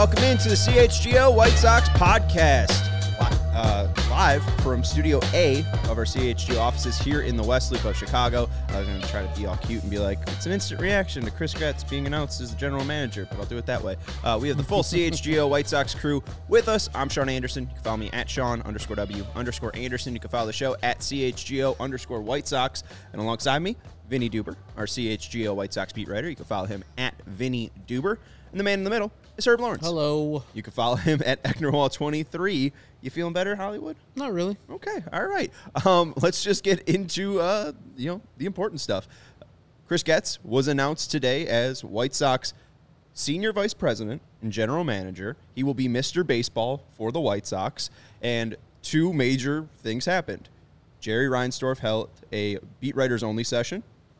welcome into the CHGO White Sox podcast. Live from Studio A of our CHGO offices here in the West Loop of Chicago. I was going to try to be all cute and be like, it's an instant reaction to Chris Getz being announced as the general manager, but I'll do it that way. We have the full CHGO White Sox crew with us. I'm Sean Anderson. You can follow me at Sean_W_Anderson. You can follow the show at CHGO_White Sox. And alongside me, Vinny Duber, our CHGO White Sox beat writer. You can follow him at Vinny Duber. And the man in the middle is Herb Lawrence. Hello. You can follow him at Ecknerwall23. You feeling better, Hollywood? Not really. Okay, all right. Let's just get into the important stuff. Chris Getz was announced today as White Sox Senior Vice President and General Manager. He will be Mr. Baseball for the White Sox, and two major things happened. Jerry Reinsdorf held a beat writers only session.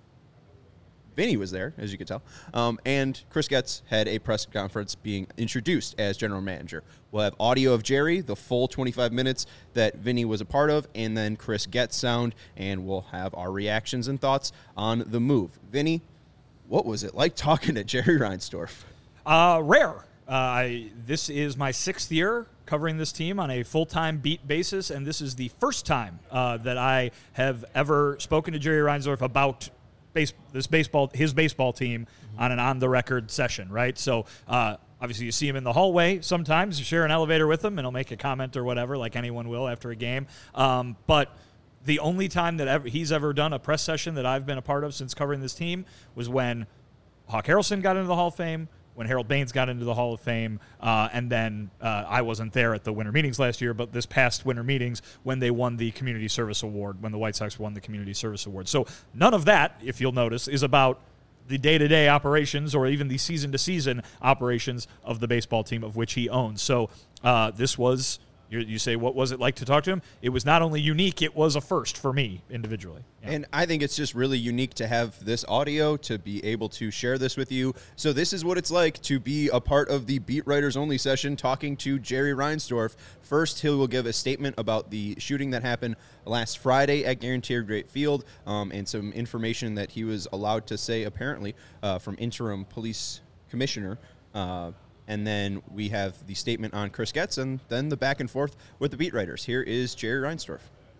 Vinny was there, as you could tell. And Chris Getz had a press conference being introduced as general manager. We'll have audio of Jerry, the full 25 minutes that Vinny was a part of, and then Chris Getz sound, and we'll have our reactions and thoughts on the move. Vinny, what was it like talking to Jerry Reinsdorf? Rare. This is my 6th year covering this team on a full-time beat basis, and this is the first time that I have ever spoken to Jerry Reinsdorf about his baseball team on an on-the-record session, right? So obviously you see him in the hallway sometimes. You share an elevator with him, and he'll make a comment or whatever, like anyone will after a game. But the only time that he's ever done a press session that I've been a part of since covering this team was when Hawk Harrelson got into the Hall of Fame, when Harold Baines got into the Hall of Fame, and then I wasn't there at the winter meetings last year, but this past winter meetings when they won the Community Service Award, when the White Sox won the Community Service Award. So none of that, if you'll notice, is about the day-to-day operations or even the season-to-season operations of the baseball team of which he owns. So this was, you say, what was it like to talk to him? It was not only unique, it was a first for me individually. Yeah. And I think it's just really unique to have this audio, to be able to share this with you. So this is what it's like to be a part of the Beat Writers Only session talking to Jerry Reinsdorf. First, he will give a statement about the shooting that happened last Friday at Guaranteed Rate Field, and some information that he was allowed to say, apparently, from interim police commissioner. And then we have the statement on Chris Getz, and then the back and forth with the beat writers. Here is Jerry Reinsdorf.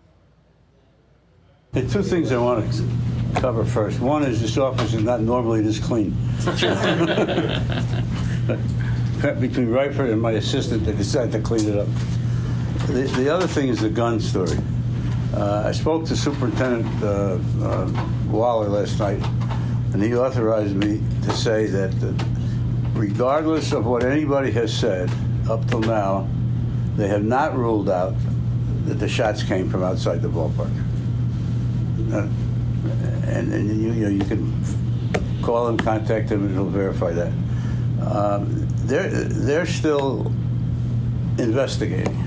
There are two things I want to cover first. One is this office is not normally this clean. Between Ryford and my assistant, they decided to clean it up. The other thing is the gun story. I spoke to Superintendent Waller last night, and he authorized me to say that regardless of what anybody has said up till now, they have not ruled out that the shots came from outside the ballpark. And you can call him, contact him, and he'll verify that. They're still investigating.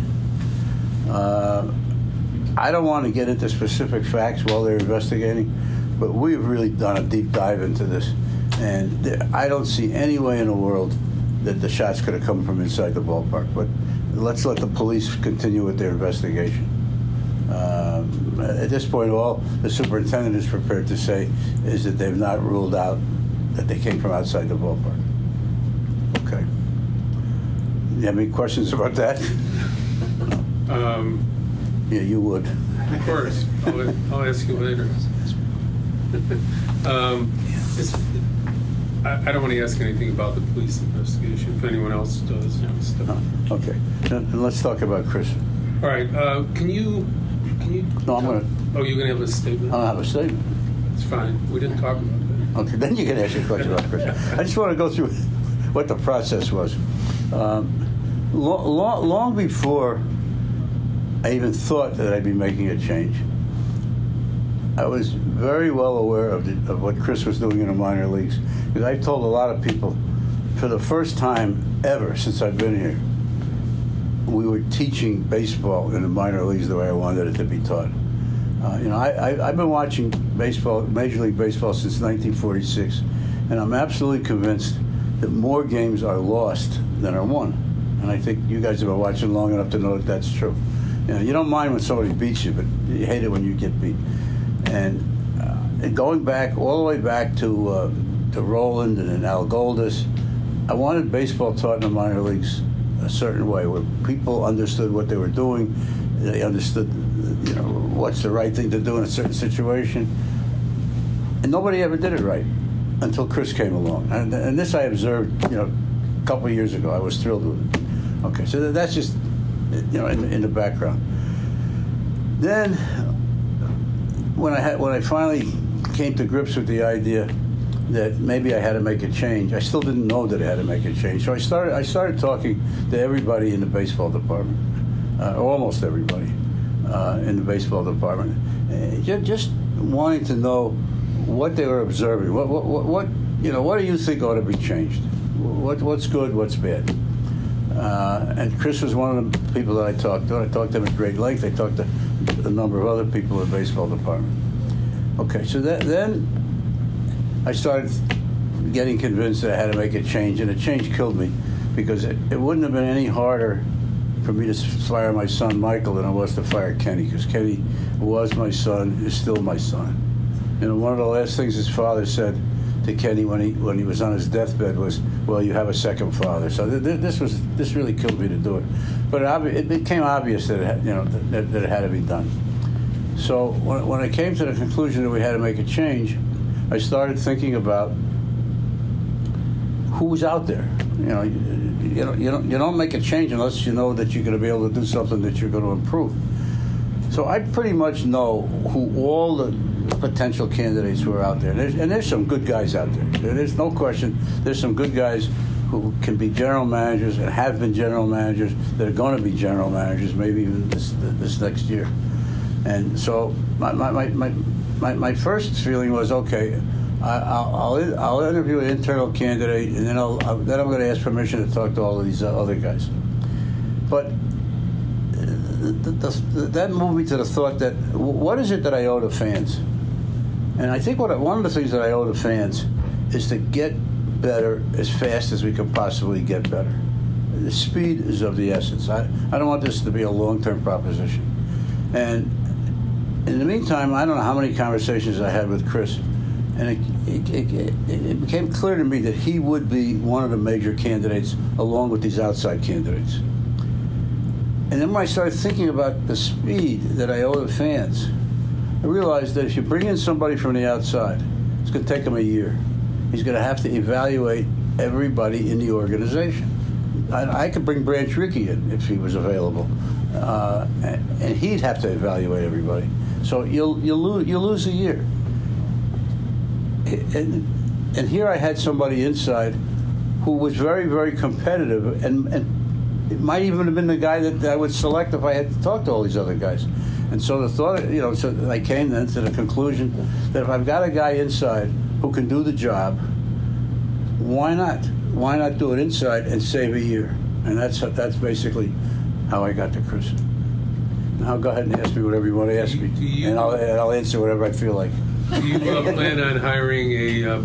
I don't want to get into specific facts while they're investigating, but we've really done a deep dive into this. And I don't see any way in the world that the shots could have come from inside the ballpark. But let's let the police continue with their investigation. At this point, all the superintendent is prepared to say is that they've not ruled out that they came from outside the ballpark. Okay. You have any questions about that? Yeah, you would. Of course. I'll ask you later. I don't want to ask anything about the police investigation. If anyone else does. Okay. And let's talk about Chris. All right. Can you? No, I'm going to. Oh, you're going to have a statement? I'll have a statement. It's fine. We didn't talk about that. Okay, then you can ask your question about Chris. I just want to go through what the process was. Long before I even thought that I'd be making a change, I was very well aware of what Chris was doing in the minor leagues. Because I've told a lot of people, for the first time ever since I've been here, we were teaching baseball in the minor leagues the way I wanted it to be taught. I've been watching baseball, Major League Baseball, since 1946, and I'm absolutely convinced that more games are lost than are won. And I think you guys have been watching long enough to know that that's true. You don't mind when somebody beats you, but you hate it when you get beat. And going back all the way back to Roland and then Al Goldis, I wanted baseball taught in the minor leagues a certain way, where people understood what they were doing. They understood, what's the right thing to do in a certain situation. And nobody ever did it right until Chris came along. And this I observed, a couple of years ago. I was thrilled with it. Okay, so that's just, in the background. Then, when I finally came to grips with the idea that maybe I had to make a change, I still didn't know that I had to make a change. So I started talking to everybody in the baseball department, almost everybody in the baseball department, just wanting to know what they were observing. What do you think ought to be changed? What's good? What's bad? And Chris was one of the people that I talked to. I talked to him at great length. I talked to a number of other people in the baseball department. Okay, so then I started getting convinced that I had to make a change, and the change killed me, because it wouldn't have been any harder for me to fire my son Michael than it was to fire Kenny, because Kenny was my son, is still my son. One of the last things his father said to Kenny when he was on his deathbed was, "Well, you have a second father." So this really killed me to do it, but it became obvious that that it had to be done. So when I came to the conclusion that we had to make a change, I started thinking about who was out there. You don't make a change unless you know that you're going to be able to do something that you're going to improve. So I pretty much know who all the potential candidates who are out there. And there's some good guys out there. There's no question. There's some good guys who can be general managers and have been general managers that are going to be general managers maybe even this next year. And so my first feeling was, okay, I'll interview an internal candidate, and then I'm going to ask permission to talk to all of these other guys. But that moved me to the thought that what is it that I owe to fans? And I think one of the things that I owe to fans is to get better as fast as we can possibly get better. The speed is of the essence. I don't want this to be a long-term proposition. And in the meantime, I don't know how many conversations I had with Chris, and it became clear to me that he would be one of the major candidates along with these outside candidates. And then when I started thinking about the speed that I owe the fans, I realized that if you bring in somebody from the outside, it's going to take him a year. He's going to have to evaluate everybody in the organization. I could bring Branch Rickey in if he was available, and he'd have to evaluate everybody. So you'll lose a year. And here I had somebody inside who was very, very competitive, and it might even have been the guy that I would select if I had to talk to all these other guys. And so the thought, so I came then to the conclusion that if I've got a guy inside who can do the job, why not? Why not do it inside and save a year? And that's basically how I got to Chris. Now go ahead and ask me whatever you want to ask me, and I'll answer whatever I feel like. Do you plan on hiring a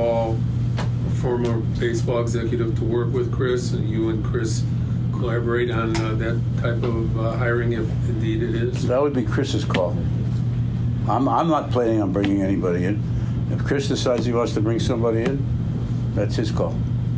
former baseball executive to work with Chris, and you and Chris collaborate on that type of hiring, if indeed it is? That would be Chris's call. I'm not planning on bringing anybody in. If Chris decides he wants to bring somebody in, that's his call.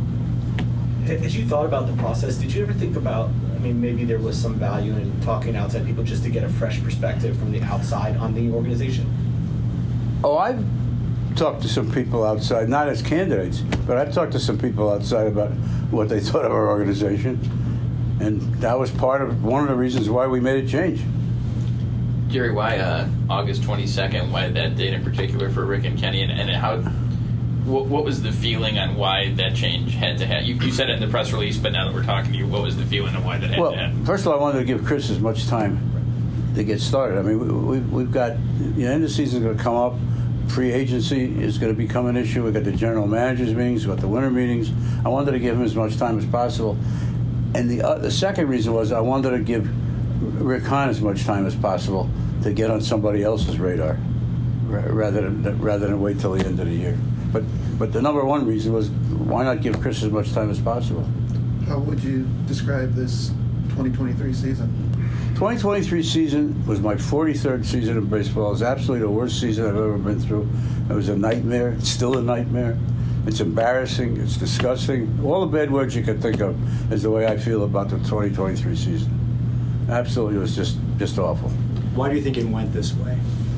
As you thought about the process, did you ever think about, maybe there was some value in talking to outside people just to get a fresh perspective from the outside on the organization? Oh, I've talked to some people outside, not as candidates, but I've talked to some people outside about what they thought of our organization. And that was one of the reasons why we made a change. Jerry, why August 22nd? Why that date in particular for Rick and Kenny? And how? What was the feeling on why that change had to happen? You said it in the press release, but now that we're talking to you, what was the feeling on why that had to happen? Well, first of all, I wanted to give Chris as much time to get started. We've got, the end of the season is going to come up. Free agency is going to become an issue. We've got the general managers meetings, we've got the winter meetings. I wanted to give him as much time as possible. And the second reason was I wanted to give Rick Hahn as much time as possible to get on somebody else's radar, rather than wait till the end of the year. But the number one reason was, why not give Chris as much time as possible? How would you describe this 2023 season? 2023 season was my 43rd season in baseball. It was absolutely the worst season I've ever been through. It was a nightmare. It's still a nightmare. It's embarrassing. It's disgusting. All the bad words you can think of is the way I feel about the 2023 season. Absolutely, it was just awful. Why do you think it went this way?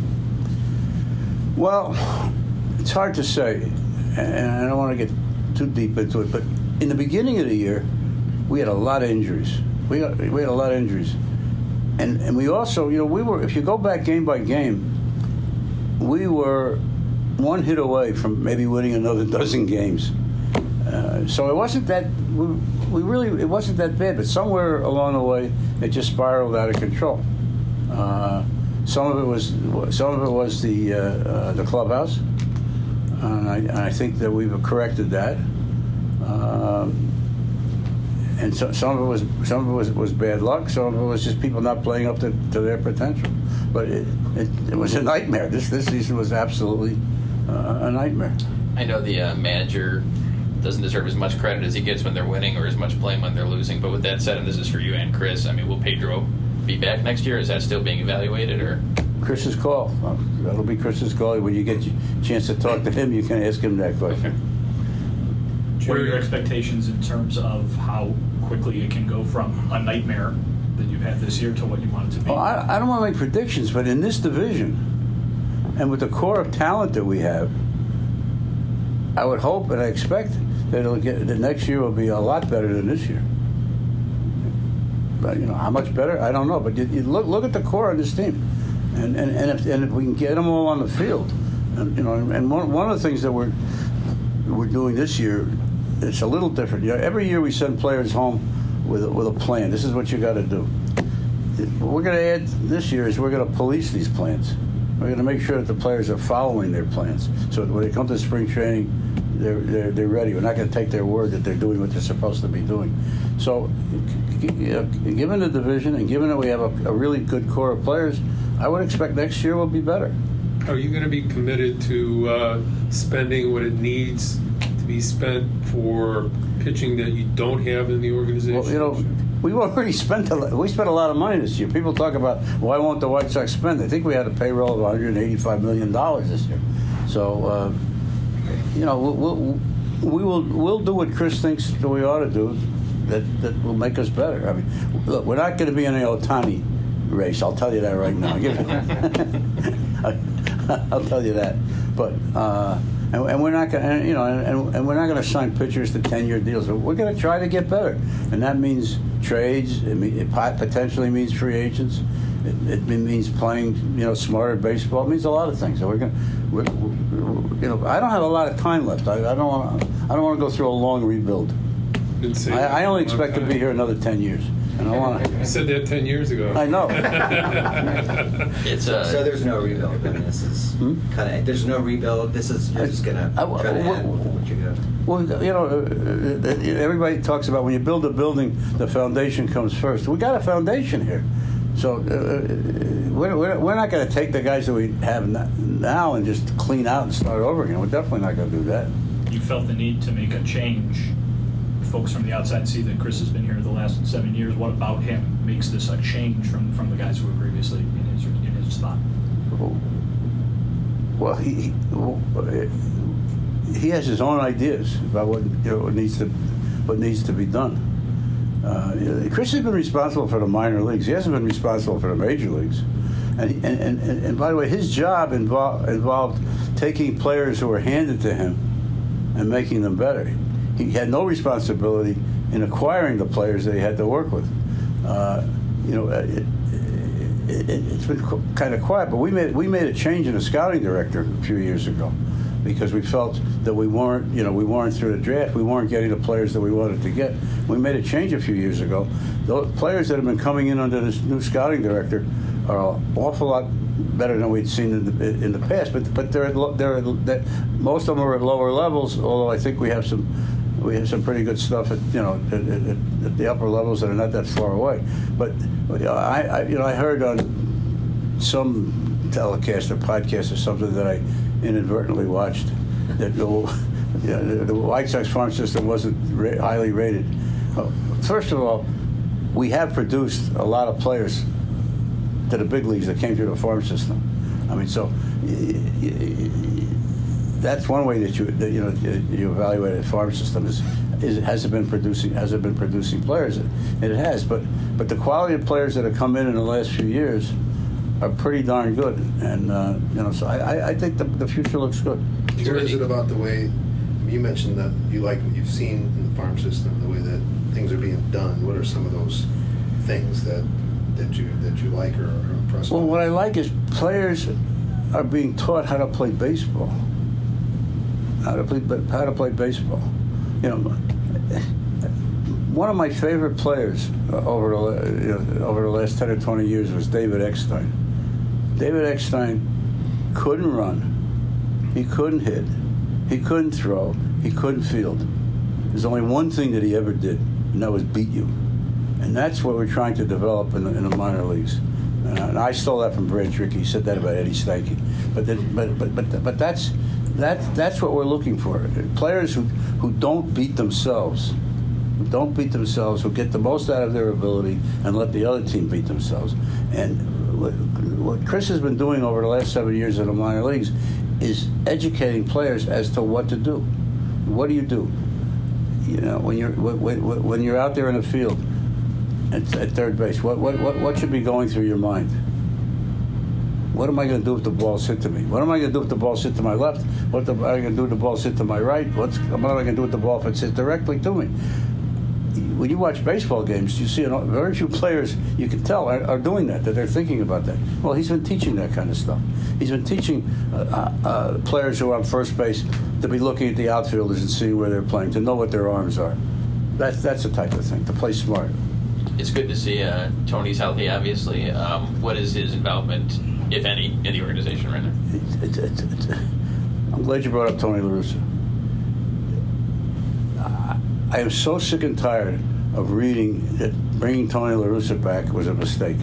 Well, it's hard to say, and I don't want to get too deep into it, but in the beginning of the year, we had a lot of injuries. We had a lot of injuries. And we also, we were, if you go back game by game, we were one hit away from maybe winning another dozen games. So it wasn't that, it wasn't that bad, but somewhere along the way, it just spiraled out of control. Some of it was the clubhouse, and I think that we've corrected that. And some of it was bad luck. Some of it was just people not playing up to their potential. But it was a nightmare. This season was absolutely a nightmare. I know the manager doesn't deserve as much credit as he gets when they're winning or as much blame when they're losing. But with that said, and this is for you and Chris, I mean, will Pedro be back next year? Is that still being evaluated, or? Chris's call. That'll be Chris's call. When you get a chance to talk to him, you can ask him that question. Okay. What are your expectations in terms of how quickly it can go from a nightmare that you've had this year to what you want it to be? Well, I don't want to make predictions, but in this division, and with the core of talent that we have, I would hope and I expect that the next year will be a lot better than this year. But how much better? I don't know. But you look at the core of this team, and if we can get them all on the field, and one of the things that we're doing this year, it's a little different. Every year we send players home with a plan. This is what you got to do. What we're going to add this year is we're going to police these plans. We're going to make sure that the players are following their plans. So when they come to spring training, they're ready. We're not going to take their word that they're doing what they're supposed to be doing. So, given the division and given that we have a really good core of players, I would expect next year will be better. Are you going to be committed to spending what it needs to be spent for pitching that you don't have in the organization? Well, we've already spent a lot of money this year. People talk about why won't the White Sox spend? I think we had a payroll of $185 million this year. So, we'll do what Chris thinks that we ought to do that will make us better. I mean, look, we're not going to be in the Ohtani race. I'll tell you that right now. I'll tell you that. But and we're not going, and we're not going to sign pitchers to 10-year deals. We're going to try to get better, and that means trades. It potentially means free agents. It means playing, smarter baseball. It means a lot of things. So I don't have a lot of time left. I don't want to go through a long rebuild. I only expect to be here another 10 years. And I want to. You said that 10 years ago. I know. So there's no rebuild. I mean, this is kind of. There's no rebuild. This is you're just gonna try to add what you got. Well, everybody talks about when you build a building, the foundation comes first. We got a foundation here, so we're not going to take the guys that we have now and just clean out and start over again. We're definitely not going to do that. You felt the need to make a change. Folks from the outside see that Chris has been here the last 7 years. What about him makes this a change from the guys who were previously in his spot? Well, he has his own ideas about what needs to be done. Chris has been responsible for the minor leagues. He hasn't been responsible for the major leagues. And by the way, his job involved taking players who were handed to him and making them better. He had no responsibility in acquiring the players that he had to work with. It's been kind of quiet, but we made a change in the scouting director a few years ago because we felt that we weren't through the draft. We weren't getting the players that we wanted to get. We made a change a few years ago. Those players that have been coming in under this new scouting director are an awful lot better than we'd seen in the past. But most of them are at lower levels. Although I think we have some pretty good stuff at the upper levels that are not that far away. But I heard on some telecast or podcast or something that I inadvertently watched that the White Sox farm system wasn't highly rated. First of all, we have produced a lot of players to the big leagues that came through the farm system. I mean, so that's one way that you evaluate a farm system is has it been producing players, and it has. But the quality of players that have come in the last few years are pretty darn good, and so I think the future looks good. What is it about the way you mentioned that you like what you've seen in the farm system, the way that things are being done? What are some of those things that you like or are impressed with? Well, what I like is players are being taught how to play baseball. How to play baseball. One of my favorite players over the last 10 or 20 years was David Eckstein. David Eckstein couldn't run, he couldn't hit, he couldn't throw, he couldn't field. There's only one thing that he ever did, and that was beat you. And that's what we're trying to develop in the minor leagues. And I stole that from Brad Trickey. He said that about Eddie Stanky. But that's what we're looking for. Players who don't beat themselves, who get the most out of their ability and let the other team beat themselves. And what Chris has been doing over the last 7 years in the minor leagues is educating players as to what to do. What do you do? When you're out there in the field at third base, what should be going through your mind? What am I going to do if the ball's hit to me? What am I going to do if the ball's hit to my left? What am I going to do if the ball's hit to my right? What am I going to do with the ball if it's hit directly to me? When you watch baseball games, you see very few players, you can tell, are doing that they're thinking about that. Well, he's been teaching that kind of stuff. He's been teaching players who are on first base to be looking at the outfielders and seeing where they're playing, to know what their arms are. That's the type of thing, to play smart. It's good to see Tony's healthy, obviously. What is his involvement, if any, in the organization right now? I'm glad you brought up Tony La Russa. I am so sick and tired of reading that bringing Tony La Russa back was a mistake.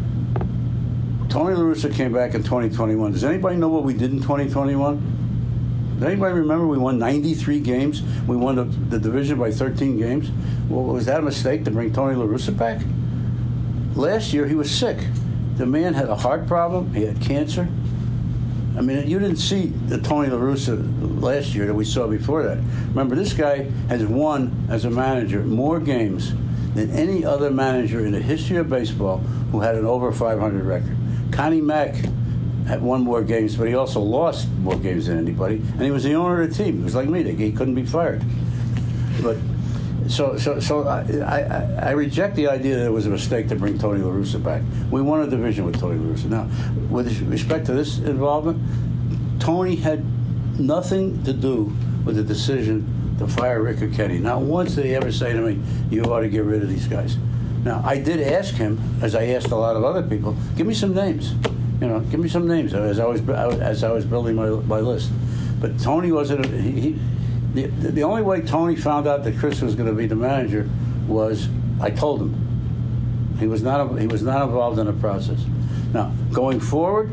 Tony La Russa came back in 2021. Does anybody know what we did in 2021? Does anybody remember we won 93 games? We won the division by 13 games. Well, was that a mistake to bring Tony La Russa back? Last year, he was sick. The man had a heart problem. He had cancer. I mean, you didn't see the Tony La Russa last year that we saw before that. Remember, this guy has won, as a manager, more games than any other manager in the history of baseball who had an over 500 record. Connie Mack had won more games, but he also lost more games than anybody, and he was the owner of the team. He was like me; he couldn't be fired. But so I reject the idea that it was a mistake to bring Tony La Russa back. We won a division with Tony La Russa. Now, with respect to this involvement, Tony had nothing to do with the decision to fire Rick or Kenny. Not once did he ever say to me, "You ought to get rid of these guys." Now, I did ask him, as I asked a lot of other people, give me some names. Give me some names as I was building my list. But Tony wasn't. The only way Tony found out that Chris was going to be the manager was I told him. He was not involved in the process. Now, going forward,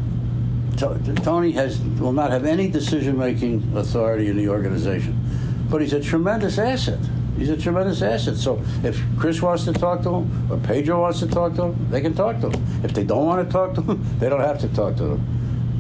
Tony will not have any decision-making authority in the organization, but he's a tremendous asset. So if Chris wants to talk to him or Pedro wants to talk to him, they can talk to him. If they don't want to talk to him, they don't have to talk to him.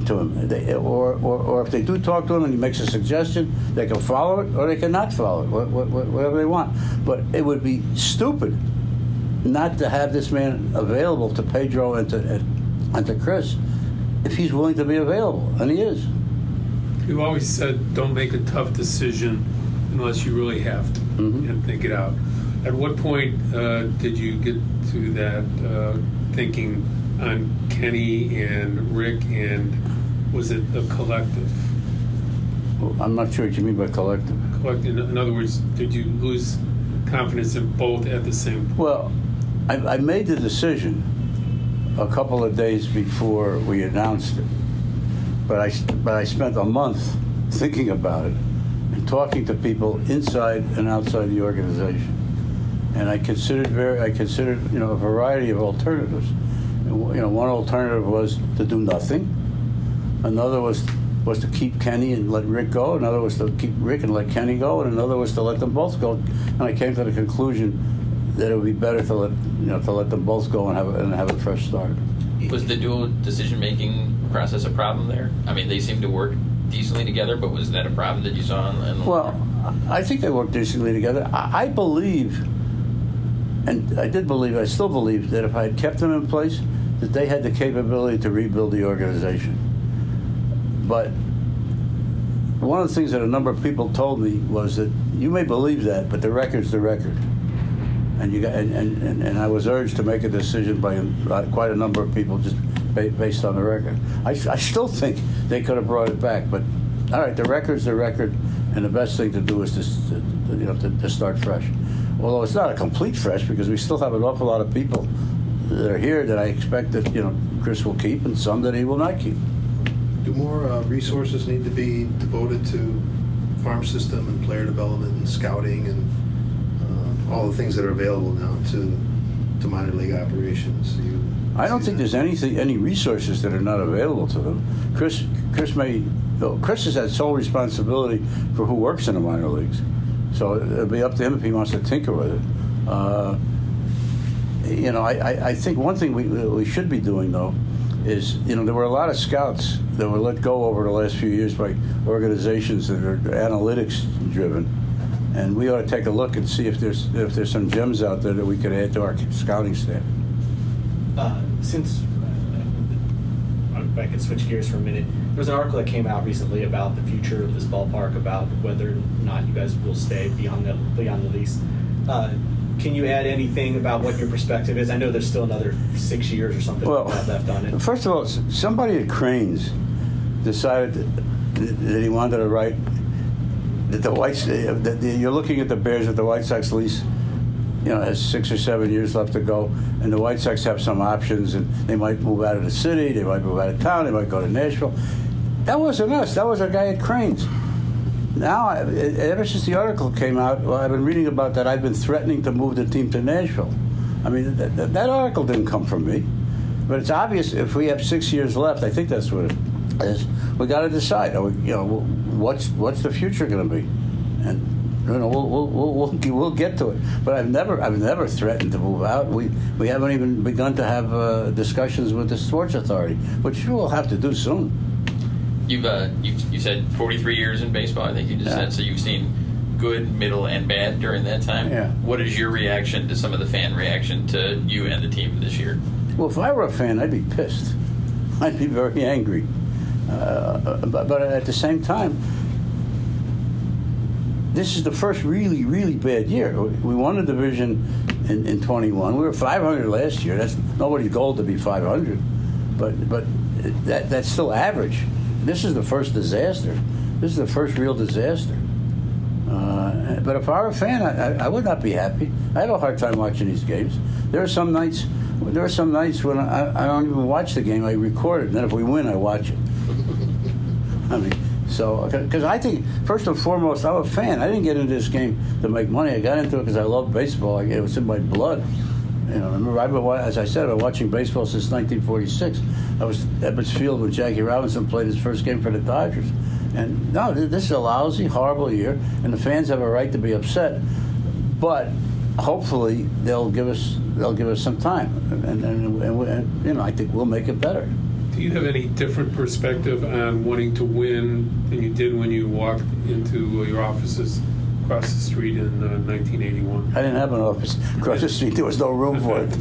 Or if they do talk to him and he makes a suggestion, they can follow it or they cannot follow it, whatever they want. But it would be stupid not to have this man available to Pedro and to Chris if he's willing to be available, and he is. You always said don't make a tough decision unless you really have to, and think it out. At what point did you get to that thinking on Kenny and Rick, and was it a collective? Well, I'm not sure what you mean by collective. In other words, did you lose confidence in both at the same point? Well, I made the decision a couple of days before we announced it, but I spent a month thinking about it and talking to people inside and outside the organization, and I considered a variety of alternatives. One alternative was to do nothing. Another was to keep Kenny and let Rick go. Another was to keep Rick and let Kenny go. And another was to let them both go. And I came to the conclusion that it would be better to let them both go and have a fresh start. Was the dual decision-making process a problem there? I mean, they seem to work decently together, but was that a problem that you saw? Well, I think they work decently together. I believe, and I still believe that if I had kept them in place, that they had the capability to rebuild the organization. But one of the things that a number of people told me was that you may believe that, but the record's the record. And I was urged to make a decision by quite a number of people just based on the record. I still think they could have brought it back, but all right, the record's the record, and the best thing to do is to start fresh. Although it's not a complete fresh, because we still have an awful lot of people that are here that I expect that Chris will keep, and some that he will not keep. Do more resources need to be devoted to farm system and player development and scouting and all the things that are available now to minor league operations? I don't think there's any resources that are not available to them. Chris has had sole responsibility for who works in the minor leagues, so it'll be up to him if he wants to tinker with it. I think one thing we should be doing, though, is, there were a lot of scouts that were let go over the last few years by organizations that are analytics driven, and we ought to take a look and see if there's some gems out there that we could add to our scouting staff. Since if I could switch gears for a minute, there was an article that came out recently about the future of this ballpark, about whether or not you guys will stay beyond the lease. Can you add anything about what your perspective is? I know there's still another 6 years or something left on it. First of all, somebody at Cranes decided that he wanted to write that you're looking at the Bears at the White Sox lease. Has 6 or 7 years left to go, and the White Sox have some options, and they might move out of the city, they might move out of town, they might go to Nashville. That wasn't us. That was our guy at Cranes. Now, ever since the article came out, I've been reading about that. I've been threatening to move the team to Nashville. I mean, that article didn't come from me. But it's obvious if we have 6 years left, I think that's what it is, we got to decide. What's the future going to be? And we'll get to it. But I've never threatened to move out. We haven't even begun to have discussions with the Sports Authority, which we'll have to do soon. You said 43 years in baseball, I think you just said, so you've seen good, middle, and bad during that time. Yeah. What is your reaction to some of the fan reaction to you and the team this year? Well, if I were a fan, I'd be pissed. I'd be very angry. But at the same time, this is the first really, really bad year. We won the division in 21. We were 500 last year. That's nobody's goal to be 500, but that's still average. This is the first disaster. This is the first real disaster. But if I were a fan, I would not be happy. I have a hard time watching these games. There are some nights when I don't even watch the game. I record it, and then if we win, I watch it. I mean, so because I think first and foremost, I'm a fan. I didn't get into this game to make money. I got into it because I love baseball. It was in my blood. Remember, as I said, I've been watching baseball since 1946. I was at Ebbets Field when Jackie Robinson played his first game for the Dodgers. And no, this is a lousy, horrible year, and the fans have a right to be upset. But hopefully they'll give us some time, and I think we'll make it better. Do you have any different perspective on wanting to win than you did when you walked into your offices across the street in 1981? I didn't have an office across the street. There was no room for it.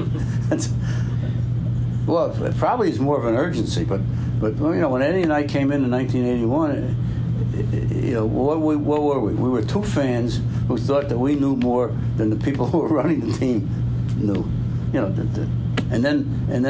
Well, it probably is more of an urgency, but when Eddie and I came in 1981, what were we? We were two fans who thought that we knew more than the people who were running the team knew. And then in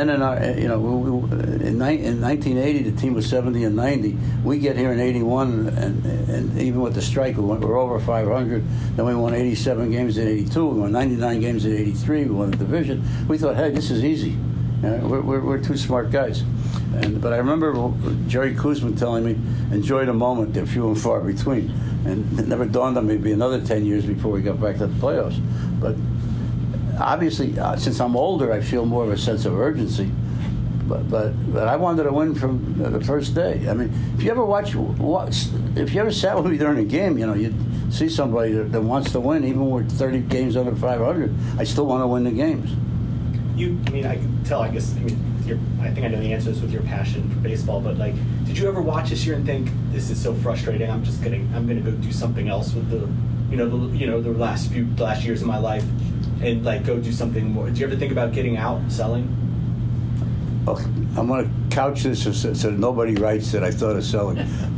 1980 the team was 70 and 90. We get here in 81, and even with the strike, we're over 500. Then we won 87 games in 82. We won 99 games in 83. We won the division. We thought, hey, this is easy. We're two smart guys. But I remember Jerry Koosman telling me, enjoy the moment. They're few and far between. And it never dawned on me it'd be another 10 years before we got back to the playoffs. But obviously, since I'm older, I feel more of a sense of urgency. But I wanted to win from the first day. I mean, if you ever sat with me during a game, you'd see somebody that wants to win, even when we're 30 games under 500. I still want to win the games. I can tell. I guess. I think I know the answer to this with your passion for baseball. But like, did you ever watch this year and think this is so frustrating? I'm gonna go do something else with the last years of my life, and like go do something more. Did you ever think about getting out, selling? Okay, I'm going to couch this so nobody writes that I thought of selling.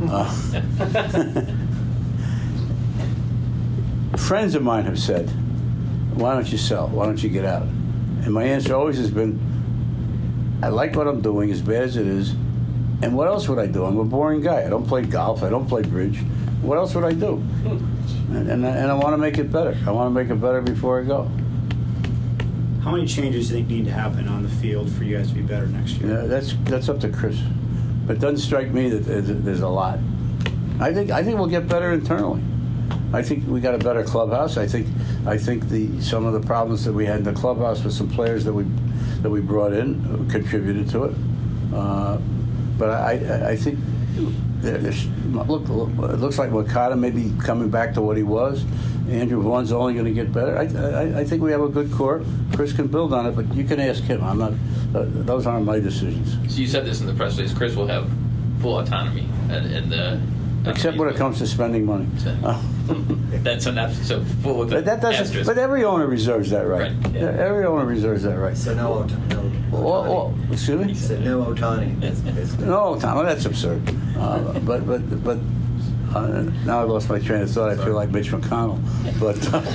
Friends of mine have said, why don't you sell? Why don't you get out? And my answer always has been, I like what I'm doing, as bad as it is, and what else would I do? I'm a boring guy. I don't play golf. I don't play bridge. What else would I do? And I want to make it better. I want to make it better before I go. How many changes do you think need to happen on the field for you guys to be better next year? Yeah, that's up to Chris. But it doesn't strike me that there's a lot. I think we'll get better internally. I think we got a better clubhouse. I think some of the problems that we had in the clubhouse with some players that we brought in contributed to it. But I think it looks like Moncada may be coming back to what he was. Andrew Vaughn's only going to get better. I think we have a good core. Chris can build on it, but you can ask him. I'm not. Those aren't my decisions. So you said this in the press release. Chris will have full autonomy in the. Except when it comes to spending money. That's enough. So full. But that doesn't. But every owner reserves that right. Yeah. Every owner reserves that right. So no Ohtani. Excuse me. He said no Ohtani. No Ohtani. That's absurd. But. Now I lost my train of thought. I feel like Mitch McConnell. But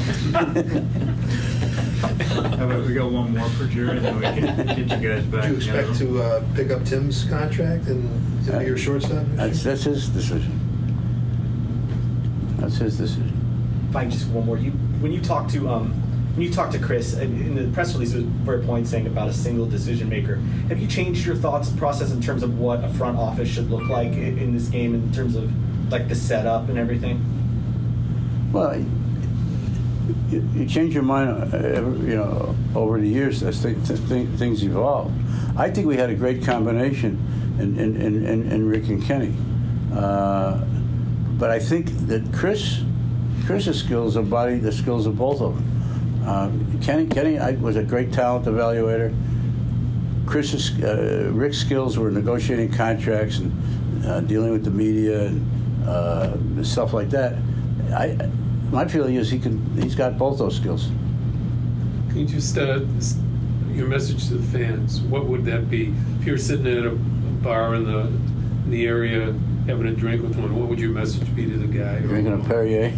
how about we got one more for Jerry, then we can get you guys back. Do you expect to pick up Tim's contract and to be your shortstop? That's his decision. That's his decision. If I can just one more. When you talk to Chris in the press release, it was very point saying about a single decision maker. Have you changed your thoughts process in terms of what a front office should look like in this game in terms of like the setup and everything? Well, you change your mind, over the years as things evolve. I think we had a great combination in Rick and Kenny, but I think that Chris's skills embody the skills of both of them. Kenny was a great talent evaluator. Rick's skills were negotiating contracts and dealing with the media and stuff like that. My feeling is he's got both those skills. Can you just your message to the fans? What would that be if you're sitting at a bar in the area having a drink with one? What would your message be to the guy? Drinking a Perrier.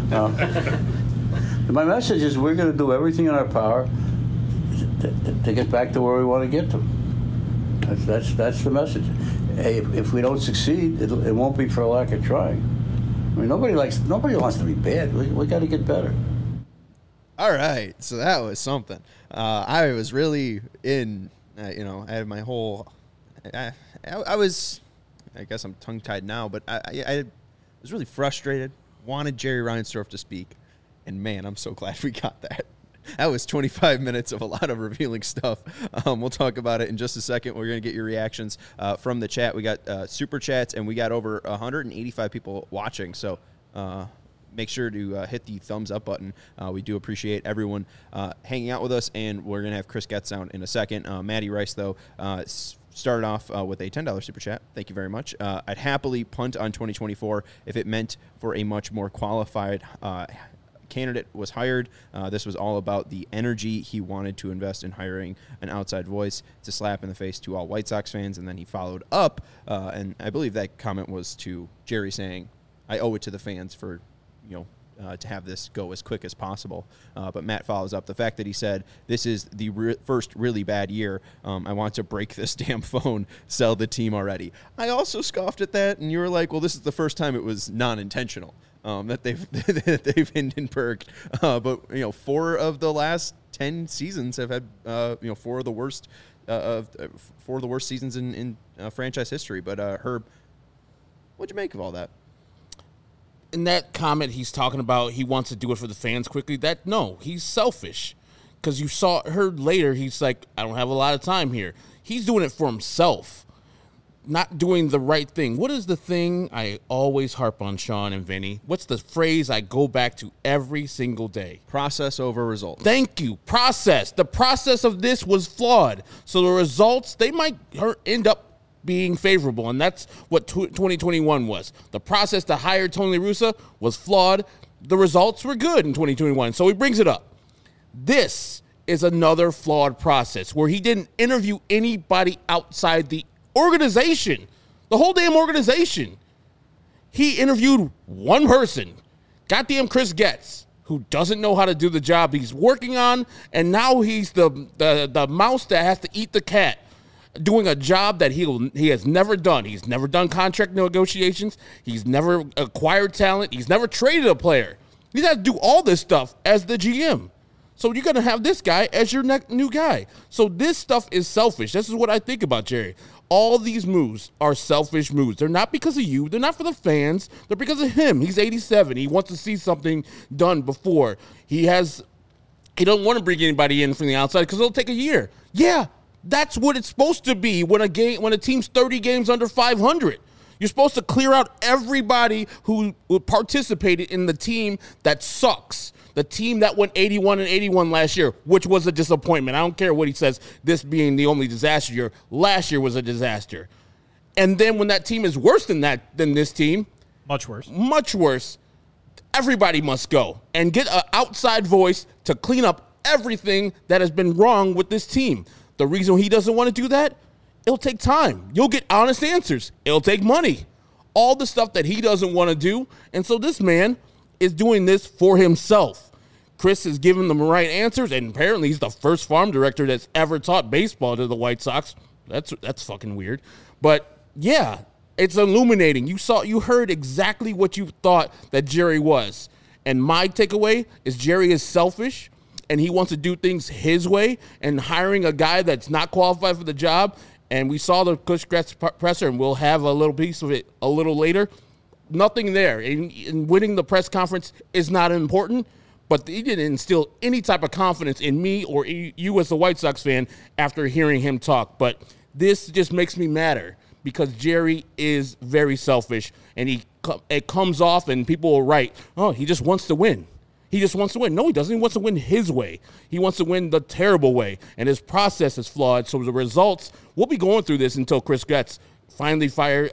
My message is we're going to do everything in our power to get back to where we want to get to. That's the message. Hey, if we don't succeed, it won't be for a lack of trying. I mean, nobody wants to be bad. We got to get better. All right, so that was something. I was really in. I had my whole. I guess I'm tongue-tied now, but I was really frustrated. Wanted Jerry Reinsdorf to speak, and man, I'm so glad we got that. That was 25 minutes of a lot of revealing stuff. We'll talk about it in just a second. We're going to get your reactions from the chat. We got super chats, and we got over 185 people watching. So make sure to hit the thumbs up button. We do appreciate everyone hanging out with us, and we're going to have Chris Getz on in a second. Maddie Rice, though, started off with a $10 super chat. Thank you very much. I'd happily punt on 2024 if it meant for a much more qualified candidate was hired. This was all about the energy he wanted to invest in hiring an outside voice. It's a slap in the face to all White Sox fans. And then he followed up, and I believe that comment was to Jerry saying, I owe it to the fans for, to have this go as quick as possible. But Matt follows up the fact that he said, this is the first really bad year. I want to break this damn phone, sell the team already. I also scoffed at that, and you were like, well, this is the first time it was non-intentional. That they've Hindenburg, but 4 of the last 10 seasons have had 4 of the worst seasons in franchise history. But Herb, what'd you make of all that? In that comment, he's talking about he wants to do it for the fans quickly. He's selfish, because heard later he's like, I don't have a lot of time here. He's doing it for himself. not doing the right thing. What is the thing I always harp on, Sean and Vinny? What's the phrase I go back to every single day? Process over results. Thank you. Process. The process of this was flawed. So the results, they might end up being favorable, and that's what 2021 was. The process to hire Tony La Russa was flawed. The results were good in 2021, so he brings it up. This is another flawed process where he didn't interview anybody outside the organization, the whole damn organization. He interviewed one person, goddamn Chris Getz, who doesn't know how to do the job he's working on, and now he's the mouse that has to eat the cat, doing a job that he has never done. He's never done contract negotiations. He's never acquired talent. He's never traded a player. He's had to do all this stuff as the GM. So you're going to have this guy as your new guy. So this stuff is selfish. This is what I think about Jerry. All these moves are selfish moves. They're not because of you. They're not for the fans. They're because of him. He's 87. He wants to see something done before. He don't want to bring anybody in from the outside because it'll take a year. Yeah, that's what it's supposed to be when a team's 30 games under 500. You're supposed to clear out everybody who participated in the team that sucks. The team that went 81-81 last year, which was a disappointment. I don't care what he says, this being the only disaster year. Last year was a disaster. And then when that team is worse than this team, much worse, everybody must go and get an outside voice to clean up everything that has been wrong with this team. The reason he doesn't want to do that, it'll take time. You'll get honest answers. It'll take money. All the stuff that he doesn't want to do. And so this man is doing this for himself. Chris is giving them the right answers, and apparently he's the first farm director that's ever taught baseball to the White Sox. That's fucking weird. But yeah, it's illuminating. You heard exactly what you thought that Jerry was. And my takeaway is Jerry is selfish, and he wants to do things his way, and hiring a guy that's not qualified for the job. And we saw the Chris Getz presser, and we'll have a little piece of it a little later. Nothing there. And winning the press conference is not important, but he didn't instill any type of confidence in me or you as a White Sox fan after hearing him talk. But this just makes me madder because Jerry is very selfish, and it comes off, and people will write, oh, he just wants to win. He just wants to win. No, he doesn't. He wants to win his way. He wants to win the terrible way, and his process is flawed. So the results, we'll be going through this until Chris Getz finally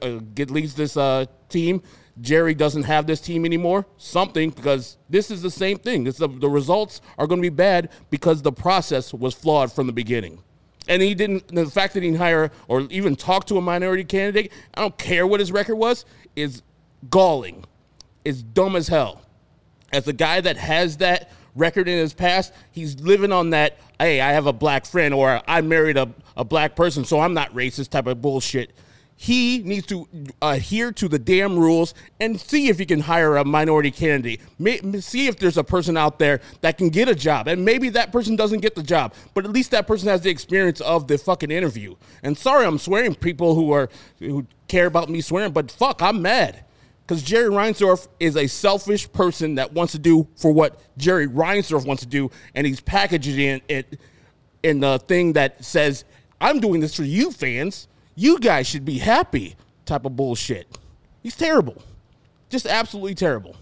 leads this team. Jerry doesn't have this team anymore, because this is the same thing. The results are going to be bad because the process was flawed from the beginning. And the fact that he didn't hire or even talk to a minority candidate, I don't care what his record was, is galling. It's dumb as hell. As a guy that has that record in his past, he's living on that, hey, I have a black friend, or I married a black person, so I'm not racist type of bullshit. He needs to adhere to the damn rules and see if he can hire a minority candidate. See if there's a person out there that can get a job. And maybe that person doesn't get the job, but at least that person has the experience of the fucking interview. And sorry, I'm swearing, people who care about me swearing, but fuck, I'm mad. Because Jerry Reinsdorf is a selfish person that wants to do for what Jerry Reinsdorf wants to do, and he's packaging it in the thing that says, I'm doing this for you fans. You guys should be happy type of bullshit. He's terrible. Just absolutely terrible.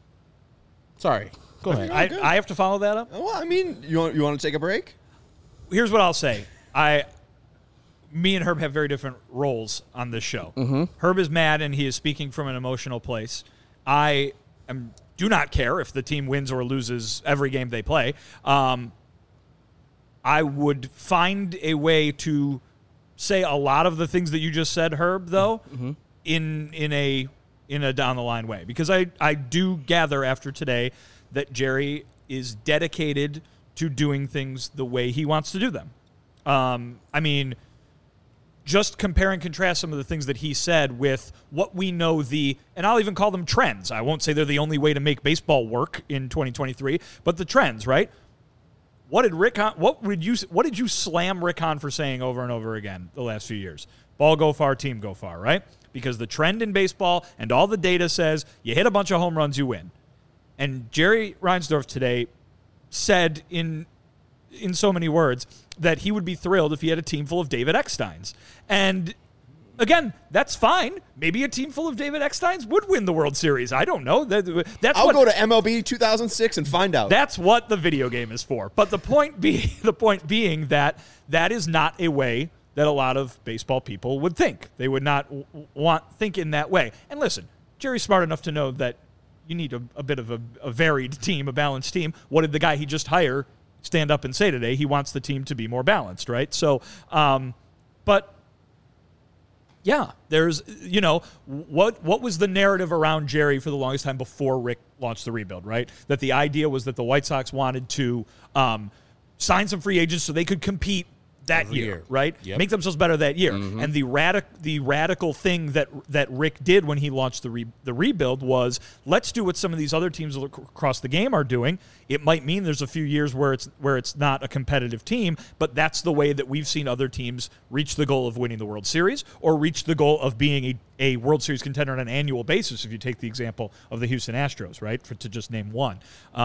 Sorry. Go ahead. I have to follow that up? Well, I mean, you want to take a break? Here's what I'll say. Me and Herb have very different roles on this show. Mm-hmm. Herb is mad, and he is speaking from an emotional place. I do not care if the team wins or loses every game they play. I would find a way to say a lot of the things that you just said, Herb, though, mm-hmm. in a down the line way, because I do gather after today that Jerry is dedicated to doing things the way he wants to do them. I mean, just compare and contrast some of the things that he said with what we know and I'll even call them trends. I won't say they're the only way to make baseball work in 2023, but the trends, right? What did you slam Rick Hahn for saying over and over again the last few years? Ball go far, team go far, right? Because the trend in baseball and all the data says you hit a bunch of home runs, you win. And Jerry Reinsdorf today said in so many words that he would be thrilled if he had a team full of David Ecksteins. And again, that's fine. Maybe a team full of David Ecksteins would win the World Series. I don't know. I'll go to MLB 2006 and find out. That's what the video game is for. But the point being that is not a way that a lot of baseball people would think. They would not think in that way. And listen, Jerry's smart enough to know that you need a bit of a varied team, a balanced team. What did the guy he just hired stand up and say today? He wants the team to be more balanced, right? So, but yeah, there's, what was the narrative around Jerry for the longest time before Rick launched the rebuild, right? That the idea was that the White Sox wanted to sign some free agents so they could compete that year, right? Yep. Make themselves better that year. Mm-hmm. And the radical thing that Rick did when he launched the rebuild was, let's do what some of these other teams across the game are doing. It might mean there's a few years where it's not a competitive team, but that's the way that we've seen other teams reach the goal of winning the World Series or reach the goal of being a World Series contender on an annual basis, if you take the example of the Houston Astros, right, to just name one.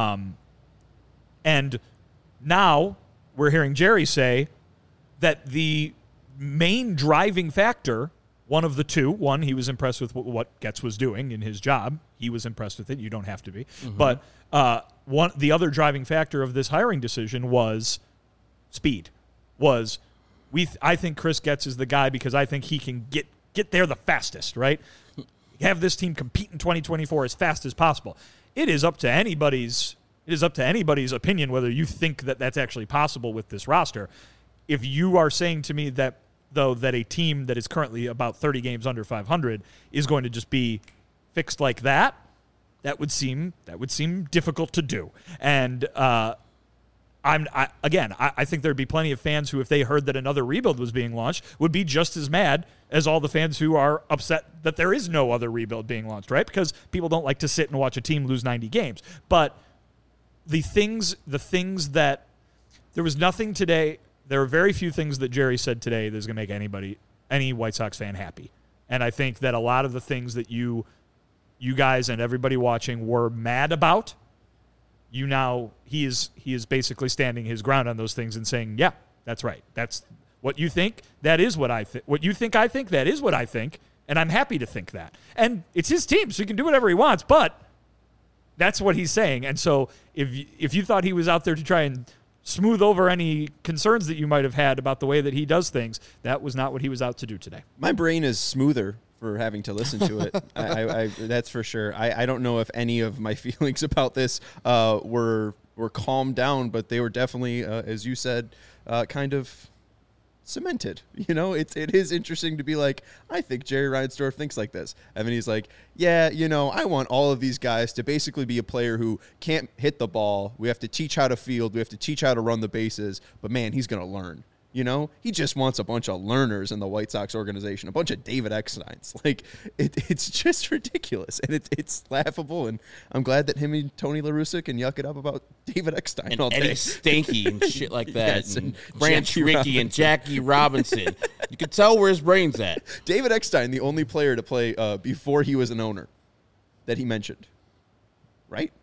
And now we're hearing Jerry say that the main driving factor, one of the two, he was impressed with what Getz was doing in his job. He was impressed with it. You don't have to be. Mm-hmm. But the other driving factor of this hiring decision was speed. I think Chris Getz is the guy because I think he can get there the fastest, right? Have this team compete in 2024 as fast as possible. It is up to anybody's opinion whether you think that that's actually possible with this roster. If you are saying to me that a team that is currently about 30 games under 500 is going to just be fixed like that, that would seem difficult to do. And I think there'd be plenty of fans who, if they heard that another rebuild was being launched, would be just as mad as all the fans who are upset that there is no other rebuild being launched, right? Because people don't like to sit and watch a team lose 90 games. But the things that there was nothing today. There are very few things that Jerry said today that's going to make any White Sox fan happy. And I think that a lot of the things that you guys and everybody watching were mad about, he is basically standing his ground on those things and saying, yeah, that's right. That's what you think. That is what I think. What you think I think, that is what I think. And I'm happy to think that. And it's his team, so he can do whatever he wants. But that's what he's saying. And so if you thought he was out there to try and smooth over any concerns that you might have had about the way that he does things, that was not what he was out to do today. My brain is smoother for having to listen to it. I that's for sure. I don't know if any of my feelings about this were calmed down, but they were definitely, as you said, kind of cemented. It is interesting to be like, I think Jerry Reinsdorf thinks like this. I mean, he's like, yeah, I want all of these guys to basically be a player who can't hit the ball. We have to teach how to field. We have to teach how to run the bases. But man, he's going to learn. He just wants a bunch of learners in the White Sox organization, a bunch of David Ecksteins. Like, it's just ridiculous, and it's laughable, and I'm glad that him and Tony La Russa can yuck it up about David Eckstein and all day. Eddie Stanky and shit like that, yes, and Branch Rickey and Jackie Robinson. You can tell where his brain's at. David Eckstein, the only player to play before he was an owner that he mentioned, right?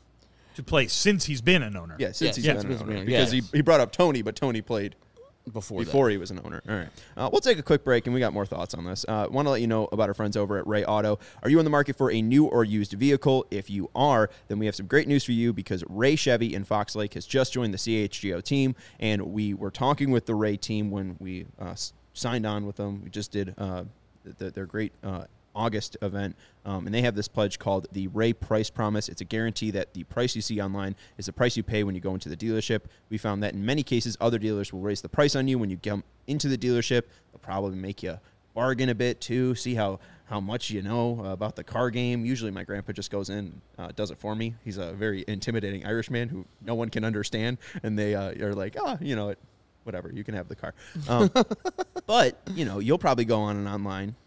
To play since he's been an owner. Yeah, since he's been an owner. Because he brought up Tony, but Tony played before he was an owner. All right. We'll take a quick break, and we got more thoughts on this. Want to let you know about our friends over at Ray Auto. Are you in the market for a new or used vehicle? If you are, then we have some great news for you, because Ray Chevy in Fox Lake has just joined the CHGO team, and we were talking with the Ray team when we signed on with them. We just did their great August event, and they have this pledge called the Ray Price Promise. It's a guarantee that the price you see online is the price you pay when you go into the dealership. We found that in many cases, other dealers will raise the price on you when you come into the dealership. They'll probably make you bargain a bit too, see how much you know about the car game. Usually my grandpa just goes in, does it for me. He's a very intimidating Irishman who no one can understand, and they are like, whatever, you can have the car. But, you'll probably go on an online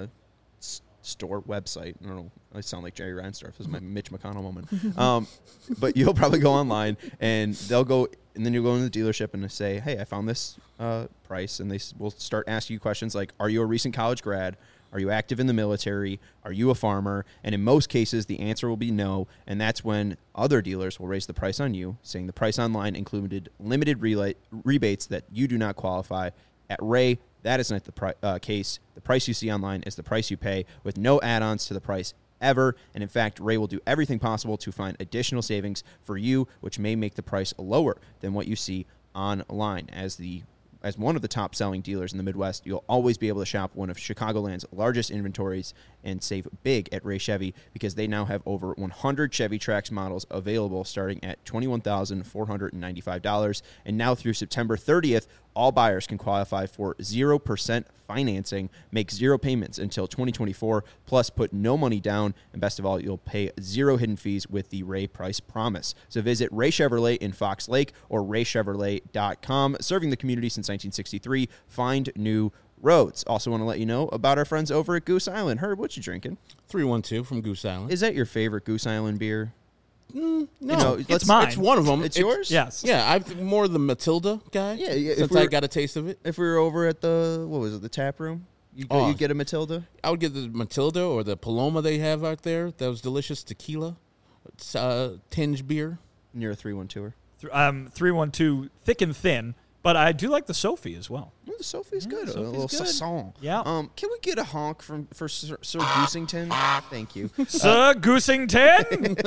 store website. I don't know. I sound like Jerry Reinsdorf. This is my Mitch McConnell moment. But you'll probably go online, and they'll go, and then you'll go into the dealership and say, hey, I found this price, and they will start asking you questions like, are you a recent college grad? Are you active in the military? Are you a farmer? And in most cases, the answer will be no, and that's when other dealers will raise the price on you, saying the price online included limited rebates that you do not qualify. At Ray, That is not the case. The price you see online is the price you pay, with no add-ons to the price ever. And in fact, Ray will do everything possible to find additional savings for you, which may make the price lower than what you see online. As one of the top-selling dealers in the Midwest, you'll always be able to shop one of Chicagoland's largest inventories and save big at Ray Chevy, because they now have over 100 Chevy Trax models available starting at $21,495. And now through September 30th, all buyers can qualify for 0% financing, make 0 payments until 2024, plus put no money down. And best of all, you'll pay 0 hidden fees with the Ray Price Promise. So visit Ray Chevrolet in Fox Lake or raychevrolet.com. Serving the community since 1963. Find new roads. Also want to let you know about our friends over at Goose Island. Herb, what you drinking? 312 from Goose Island. Is that your favorite Goose Island beer? No, it's mine. It's one of them. It's yours? Yes. Yeah, I'm more the Matilda guy. Yeah. Since I got a taste of it. If we were over at the tap room, you get a Matilda? I would get the Matilda or the Paloma they have out there. That was delicious tequila, tinge beer. And you're a 312er? 312, thick and thin, but I do like the Sophie as well. Well, the Sophie's good. A little saison. Yeah. Can we get a honk for Sir Goosington? Thank you. Sir Goosington?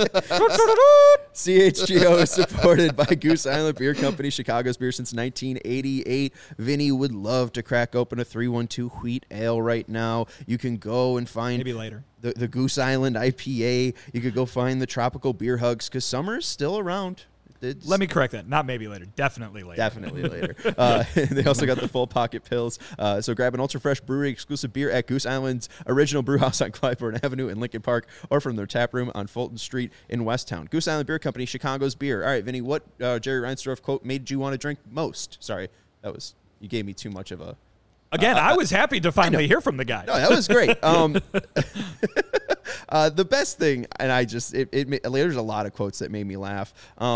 CHGO is supported by Goose Island Beer Company, Chicago's beer since 1988. Vinny would love to crack open a 312 wheat ale right now. You can go and find maybe later the Goose Island IPA. You could go find the tropical beer hugs, because summer is still around. Let me correct that. Not maybe later. Definitely later. Definitely later. They also got the full pocket pills. So grab an ultra fresh brewery exclusive beer at Goose Island's original brew house on Clybourne Avenue in Lincoln Park, or from their tap room on Fulton Street in Westtown. Goose Island Beer Company, Chicago's beer. All right, Vinny, what Jerry Reinsdorf quote made you want to drink most? Sorry, you gave me too much of a. Again, I was happy to finally hear from the guy. No, that was great. The best thing, and there's a lot of quotes that made me laugh.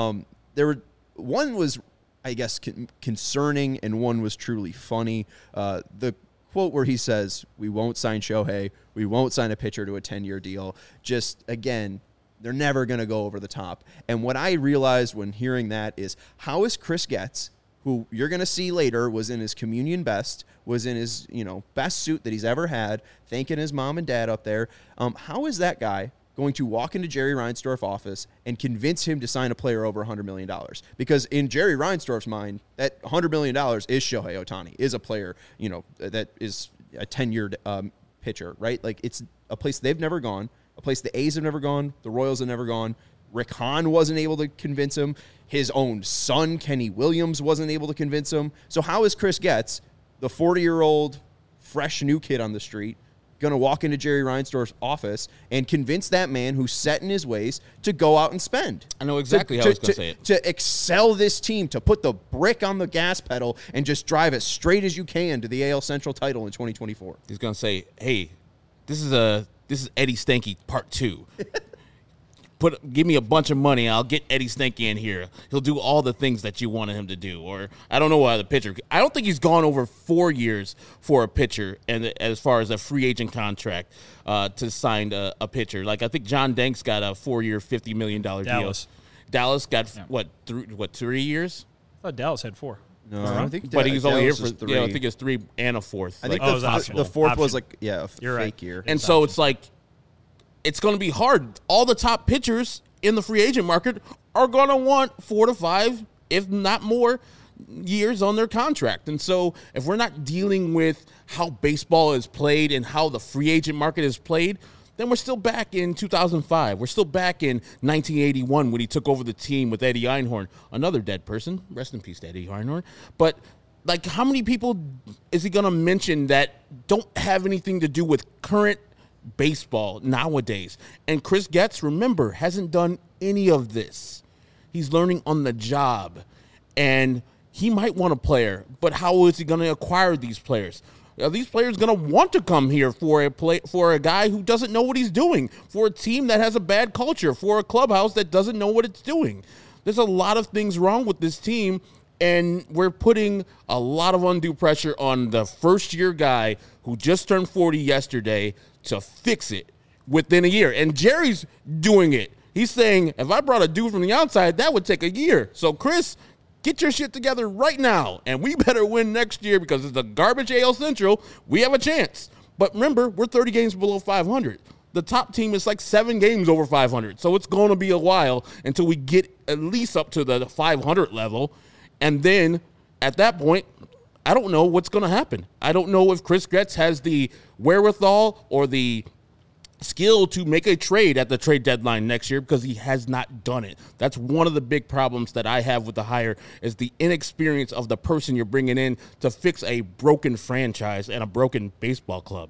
One was, I guess, concerning, and one was truly funny. The quote where he says, "We won't sign Shohei, we won't sign a pitcher to a 10-year deal." Just, again, they're never going to go over the top. And what I realized when hearing that is, how is Chris Getz, who you're going to see later was in his communion best, was in his best suit that he's ever had, thanking his mom and dad up there, how is that guy going to walk into Jerry Reinsdorf's office and convince him to sign a player over $100 million? Because in Jerry Reinsdorf's mind, that $100 million is Shohei Ohtani, is a player, that is a 10-year pitcher, right? Like, it's a place they've never gone, a place the A's have never gone, the Royals have never gone. Rick Hahn wasn't able to convince him. His own son, Kenny Williams, wasn't able to convince him. So how is Chris Getz, the 40-year-old, fresh new kid on the street, going to walk into Jerry Reinsdorf's office and convince that man who's set in his ways to go out and spend? I know exactly how I was going to say it. To excel this team, to put the brick on the gas pedal and just drive as straight as you can to the AL Central title in 2024. He's going to say, "Hey, this is Eddie Stanky Part 2. Give me a bunch of money, I'll get Eddie Stanky in here. He'll do all the things that you wanted him to do." Or I don't know why the pitcher. I don't think he's gone over 4 years for a pitcher, and as far as a free agent contract to sign a pitcher. Like, I think John Danks got a 4-year, $50 million deal. Dallas got 3 years? I thought Dallas had 4. No, I don't think. But he's only here for 3. I think it's 3 and a 4th. I think the 4th was like a fake year. And so it's like, it's going to be hard. All the top pitchers in the free agent market are going to want 4 to 5, if not more, years on their contract. And so if we're not dealing with how baseball is played and how the free agent market is played, then we're still back in 2005. We're still back in 1981 when he took over the team with Eddie Einhorn, another dead person. Rest in peace to Eddie Einhorn. But, like, how many people is he going to mention that don't have anything to do with current baseball nowadays? And Chris Getz, remember, hasn't done any of this. He's learning on the job, and he might want a player, but how is he going to acquire these players? Are these players going to want to come here for a guy who doesn't know what he's doing, for a team that has a bad culture, for a clubhouse that doesn't know what it's doing? There's a lot of things wrong with this team, and we're putting a lot of undue pressure on the first-year guy who just turned 40 yesterday to fix it within a year. And Jerry's doing it. He's saying, if I brought a dude from the outside, that would take a year. So, Chris, get your shit together right now, and we better win next year because it's a garbage AL Central. We have a chance. But remember, we're 30 games below 500. The top team is like 7 games over 500. So it's going to be a while until we get at least up to the 500 level. And then at that point, I don't know what's going to happen. I don't know if Chris Getz has the wherewithal or the skill to make a trade at the trade deadline next year because he has not done it. That's one of the big problems that I have with the hire is the inexperience of the person you're bringing in to fix a broken franchise and a broken baseball club.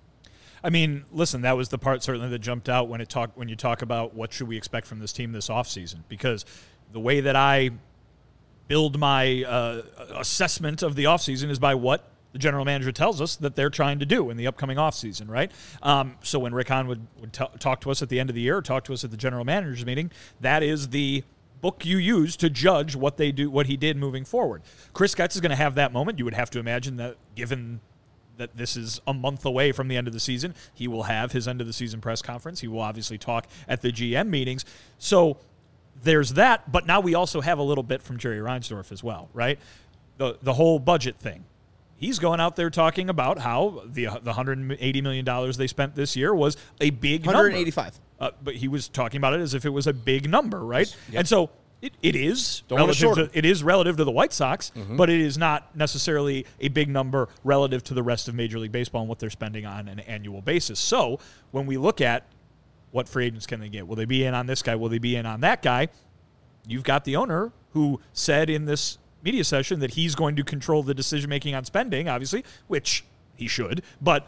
I mean, listen, that was the part certainly that jumped out when you talk about what should we expect from this team this offseason, because the way that I build my assessment of the offseason is by what the general manager tells us that they're trying to do in the upcoming offseason, right? So when Rick Hahn would talk to us at the end of the year, or talk to us at the general manager's meeting, that is the book you use to judge what they do, what he did moving forward. Chris Getz is going to have that moment. You would have to imagine that, given that this is a month away from the end of the season, he will have his end of the season press conference. He will obviously talk at the GM meetings. So there's that, but now we also have a little bit from Jerry Reinsdorf as well, right? The whole budget thing. He's going out there talking about how the $180 million they spent this year was a big number. 185. But he was talking about it as if it was a big number, right? Yep. And so it is relative to the White Sox, but it is not necessarily a big number relative to the rest of Major League Baseball and what they're spending on an annual basis. So when we look at what free agents can they get, will they be in on this guy? Will they be in on that guy? You've got the owner who said in this media session that he's going to control the decision-making on spending, obviously, which he should. But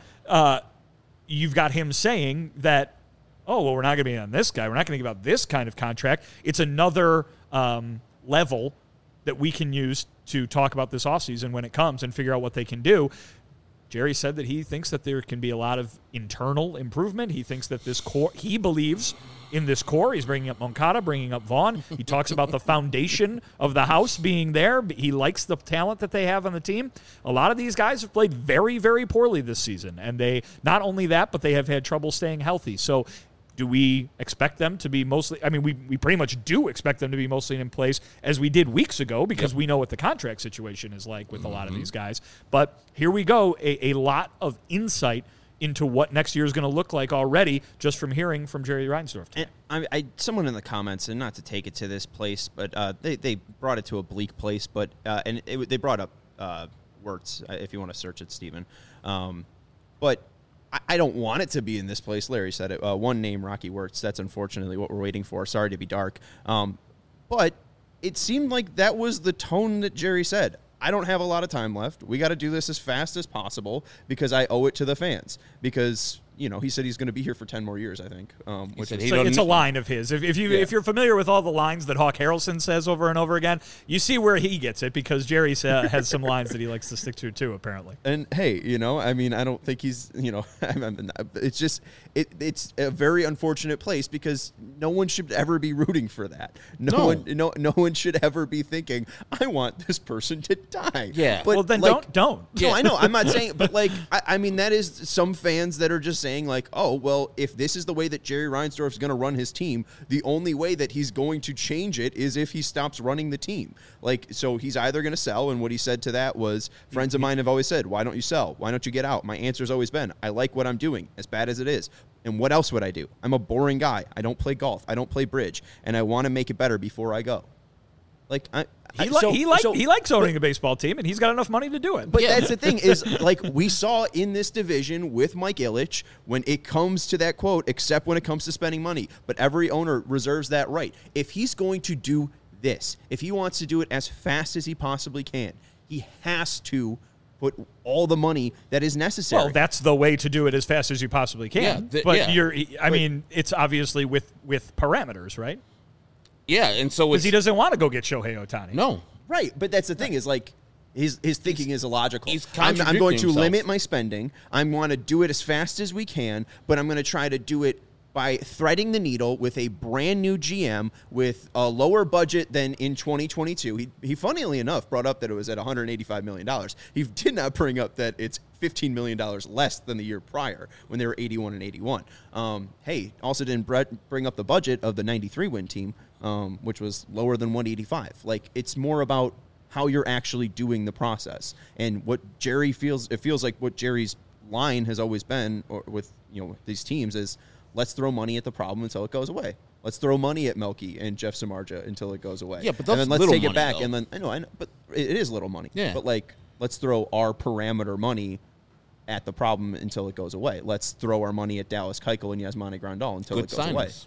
you've got him saying that, oh, well, we're not going to be on this guy. We're not going to give out this kind of contract. It's another level that we can use to talk about this offseason when it comes and figure out what they can do. Jerry said that he thinks that there can be a lot of internal improvement. He thinks that this core, he believes in this core. He's bringing up Moncada, bringing up Vaughn. He talks about the foundation of the house being there. He likes the talent that they have on the team. A lot of these guys have played very, very poorly this season. And they, not only that, but they have had trouble staying healthy. So do we expect them to be mostly, I mean, we pretty much do expect them to be mostly in place as we did weeks ago because we know what the contract situation is like with a lot of these guys. But here we go, a lot of insight into what next year is going to look like already just from hearing from Jerry Reinsdorf. And someone in the comments, and not to take it to this place, but they brought it to a bleak place, but they brought up Wirtz, if you want to search it, Stephen. But I don't want it to be in this place. Larry said it. One name, Rocky Wirtz. That's unfortunately what we're waiting for. Sorry to be dark. But it seemed like that was the tone that Jerry said. I don't have a lot of time left. We got to do this as fast as possible because I owe it to the fans. Because, you know, he said he's going to be here for 10 more years, I think. Which is, it's a line of his. If you're familiar with all the lines that Hawk Harrelson says over and over again, you see where he gets it because Jerry has some lines that he likes to stick to too, apparently. And hey, you know, I mean, I don't think he's, you know, it's just it's a very unfortunate place because no one should ever be rooting for that. No one should ever be thinking, I want this person to die. Yeah. But well, then like, don't. No, I know. I'm not saying, but like, I mean, that is some fans that are just saying like, oh, well, if this is the way that Jerry Reinsdorf is going to run his team, the only way that he's going to change it is if he stops running the team. Like, so he's either going to sell, and what he said to that was, friends of mine have always said, why don't you sell? Why don't you get out? My answer's always been, I like what I'm doing, as bad as it is. And what else would I do? I'm a boring guy. I don't play golf. I don't play bridge. And I want to make it better before I go. Like, he likes owning a baseball team, and he's got enough money to do it. But that's the thing is, like, we saw in this division with Mike Ilitch, when it comes to that quote, except when it comes to spending money, but every owner reserves that right. If he's going to do this, if he wants to do it as fast as he possibly can, he has to put all the money that is necessary. Well, that's the way to do it as fast as you possibly can. I mean, it's obviously with parameters, right? Yeah, and so because he doesn't want to go get Shohei Ohtani. No, right. But that's the thing is like his thinking is illogical. I'm going to limit my spending. I want to do it as fast as we can, but I'm going to try to do it by threading the needle with a brand new GM with a lower budget than in 2022. He funnily enough brought up that it was at $185 million. He did not bring up that it's $15 million less than the year prior when they were 81 and 81. Hey, also didn't bring up the budget of the 93 win team. which was lower than 185. Like, it's more about how you're actually doing the process. And what Jerry feels, it feels like what Jerry's line has always been with these teams is, let's throw money at the problem until it goes away. Let's throw money at Melky and Jeff Samardzija until it goes away. Yeah, but that's and then let's little take money, it back. though. And then I know, but it is little money. Yeah. But like, let's throw our parameter money at the problem until it goes away. Let's throw our money at Dallas Keuchel and Yasmani Grandal until it goes away.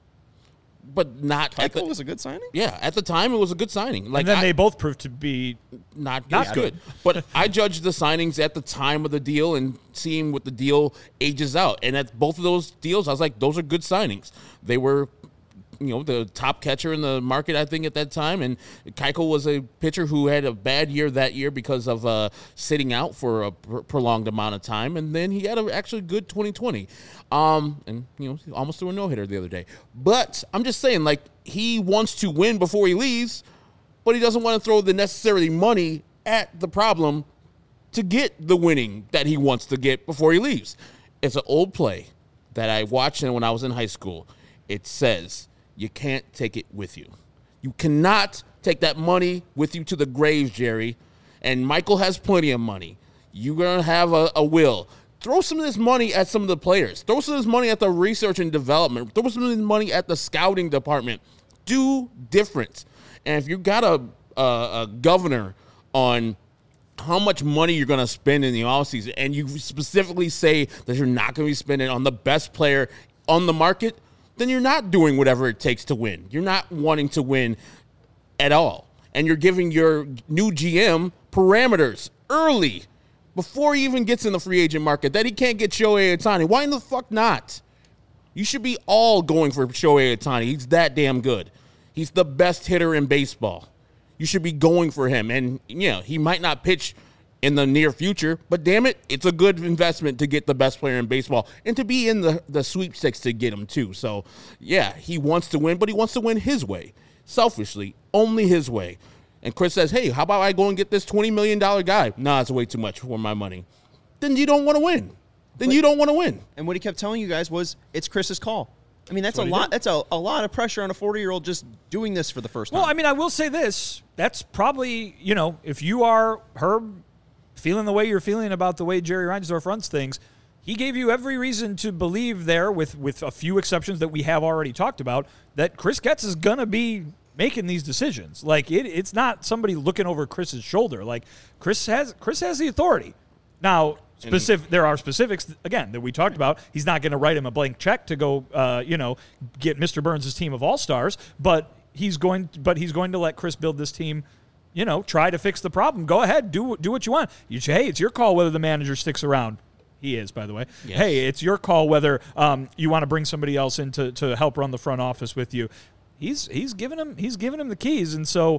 But not Keuchel was a good signing? Yeah, at the time it was a good signing. Like, and then they both proved to be not good. But I judged the signings at the time of the deal and seeing what the deal ages out. And at both of those deals, I was like, those are good signings. They were, the top catcher in the market, I think, at that time. And Keuchel was a pitcher who had a bad year that year because of sitting out for a prolonged amount of time. And then he had an actually good 2020. And, he almost threw a no-hitter the other day. But I'm just saying, like, he wants to win before he leaves, but he doesn't want to throw the necessary money at the problem to get the winning that he wants to get before he leaves. It's an old play that I watched when I was in high school. It says, you can't take it with you. You cannot take that money with you to the grave, Jerry. And Michael has plenty of money. You're going to have a will. Throw some of this money at some of the players. Throw some of this money at the research and development. Throw some of this money at the scouting department. Do different. And if you got a governor on how much money you're going to spend in the offseason, and you specifically say that you're not going to be spending on the best player on the market, then you're not doing whatever it takes to win. You're not wanting to win at all. And you're giving your new GM parameters early, before he even gets in the free agent market, that he can't get Shohei Ohtani. Why in the fuck not? You should be all going for Shohei Ohtani. He's that damn good. He's the best hitter in baseball. You should be going for him. And, he might not pitch in the near future, but damn it, it's a good investment to get the best player in baseball and to be in the sweepstakes to get him too. So, yeah, he wants to win, but he wants to win his way. Selfishly, only his way. And Chris says, hey, how about I go and get this $20 million guy? Nah, it's way too much for my money. Then you don't want to win. You don't want to win. And what he kept telling you guys was, it's Chris's call. I mean, that's a lot. That's a lot of pressure on a 40-year-old just doing this for the first time. Well, I mean, I will say this. That's probably, if you are Herb, feeling the way you're feeling about the way Jerry Reinsdorf runs things, he gave you every reason to believe there, with a few exceptions that we have already talked about, that Chris Getz is going to be making these decisions. Like, it's not somebody looking over Chris's shoulder. Like, Chris has the authority. Now, there are specifics, again, that we talked about. He's not going to write him a blank check to go, get Mr. Burns' team of all-stars, but he's going to let Chris build this team, try to fix the problem. Go ahead, do what you want. You say, hey, it's your call whether the manager sticks around. He is, by the way. Yes. Hey, it's your call whether you want to bring somebody else in to help run the front office with you. He's giving him the keys, and so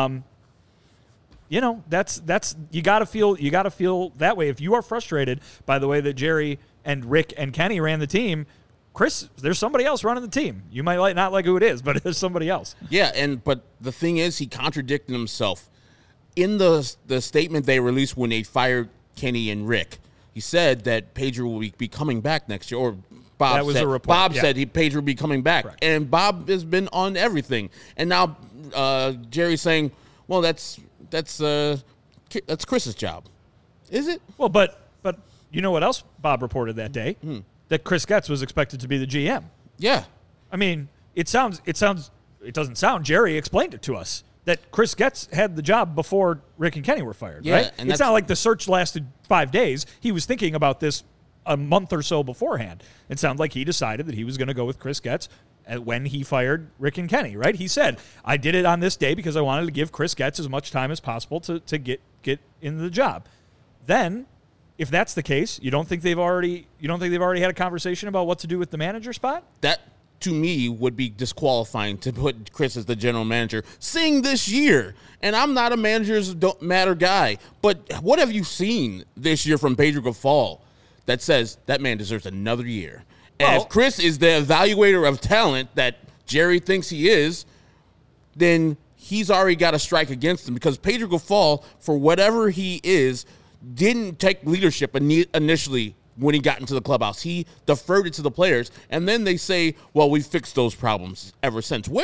that's you got to feel that way. If you are frustrated by the way that Jerry and Rick and Kenny ran the team, Chris, there's somebody else running the team. You might not like who it is, but there's somebody else. Yeah, but the thing is, he contradicted himself in the statement they released when they fired Kenny and Rick. He said that Pedro will be coming back next year, or Bob said, a report. Bob said Pedro will be coming back. Correct. And Bob has been on everything. And now Jerry's saying, well, that's Chris's job. Is it? Well, but you know what else Bob reported that day? That Chris Getz was expected to be the GM. Yeah. I mean, it doesn't sound, Jerry explained it to us, that Chris Getz had the job before Rick and Kenny were fired, right? And it's not like the search lasted 5 days. He was thinking about this a month or so beforehand. It sounded like he decided that he was going to go with Chris Getz when he fired Rick and Kenny, right? He said, I did it on this day because I wanted to give Chris Getz as much time as possible to get into the job. Then, if that's the case, you don't think they've already had a conversation about what to do with the manager spot? That, to me, would be disqualifying to put Chris as the general manager, seeing this year. And I'm not a managers don't matter guy, but what have you seen this year from Pedro Grifol that says that man deserves another year? And if Chris is the evaluator of talent that Jerry thinks he is, then he's already got a strike against him, because Pedro Grifol, for whatever he is, didn't take leadership initially when he got into the clubhouse. He deferred it to the players, and then they say, well, we fixed those problems ever since. Where?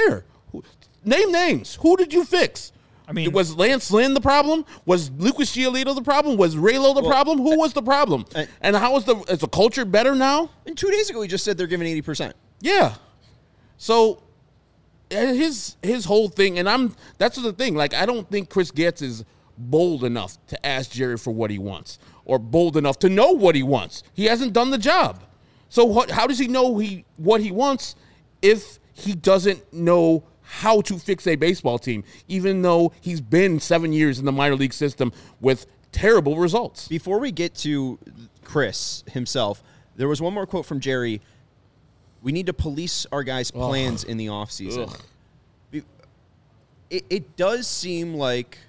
Name names. Who did you fix? I mean, was Lance Lynn the problem? Was Lucas Giolito the problem? Was Raylo the problem? Who was the problem? And how is the culture better now? And 2 days ago, he just said they're giving 80%. Yeah. So his whole thing, and that's the thing. Like, I don't think Chris Getz is bold enough to ask Jerry for what he wants, or bold enough to know what he wants. He hasn't done the job. So how does he know what he wants if he doesn't know how to fix a baseball team, even though he's been 7 years in the minor league system with terrible results? Before we get to Chris himself, there was one more quote from Jerry. We need to police our guys' plans in the offseason. It does seem like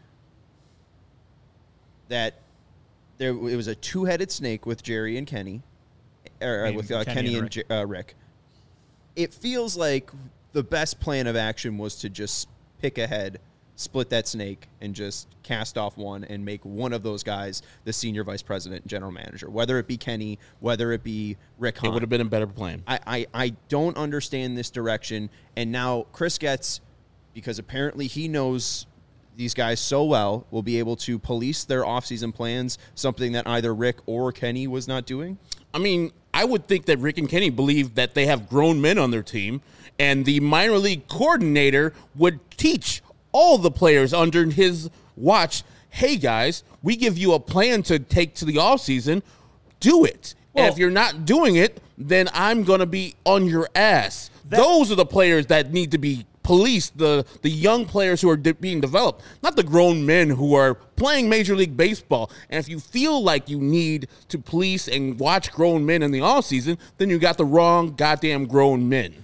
that it was a two-headed snake with Jerry and Kenny, or with Kenny and Rick. It feels like the best plan of action was to just pick ahead, split that snake, and just cast off one and make one of those guys the senior vice president and general manager, whether it be Kenny, whether it be Rick Hahn. It would have been a better plan. I don't understand this direction. And now Chris Getz, because apparently he knows these guys so well, will be able to police their offseason plans, something that either Rick or Kenny was not doing? I mean, I would think that Rick and Kenny believe that they have grown men on their team, and the minor league coordinator would teach all the players under his watch, hey, guys, we give you a plan to take to the offseason. Do it. Well, and if you're not doing it, then I'm going to be on your ass. Those are the players that need to be policed, the young players who are being developed, not the grown men who are playing Major League Baseball. And if you feel like you need to police and watch grown men in the offseason, then you got the wrong goddamn grown men.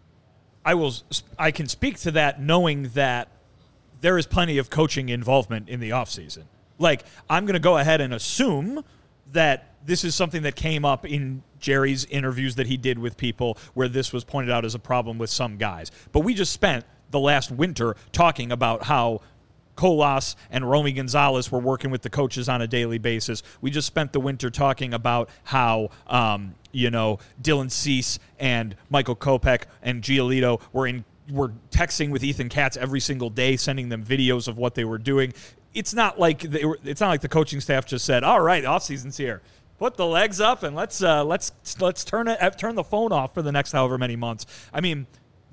I can speak to that knowing that there is plenty of coaching involvement in the offseason. Like, I'm going to go ahead and assume that this is something that came up in Jerry's interviews that he did with people where this was pointed out as a problem with some guys. But we just spent the last winter talking about how Colas and Romy Gonzalez were working with the coaches on a daily basis. We just spent the winter talking about how, Dylan Cease and Michael Kopech and Giolito were texting with Ethan Katz every single day, sending them videos of what they were doing. It's not like the coaching staff just said, "All right, off season's here. Put the legs up and let's turn the phone off for the next however many months." I mean,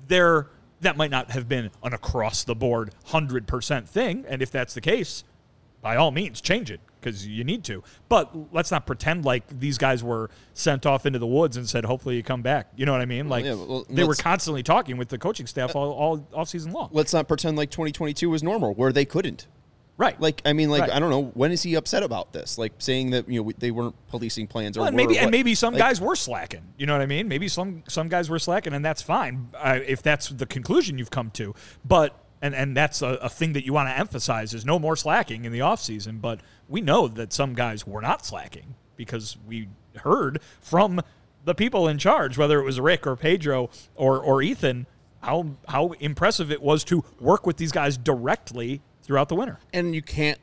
that might not have been an across the board 100% thing, and if that's the case, by all means change it because you need to. But let's not pretend like these guys were sent off into the woods and said, "Hopefully you come back." You know what I mean? Like they were constantly talking with the coaching staff all off season long. Let's not pretend like 2022 was normal where they couldn't. Right. Right. I don't know. When is he upset about this? Like saying that, they weren't policing plans or maybe some guys were slacking. You know what I mean? Maybe some guys were slacking, and that's fine if that's the conclusion you've come to. But and that's a thing that you want to emphasize is no more slacking in the offseason. But we know that some guys were not slacking because we heard from the people in charge, whether it was Rick or Pedro or Ethan, how impressive it was to work with these guys directly throughout the winter. And you can't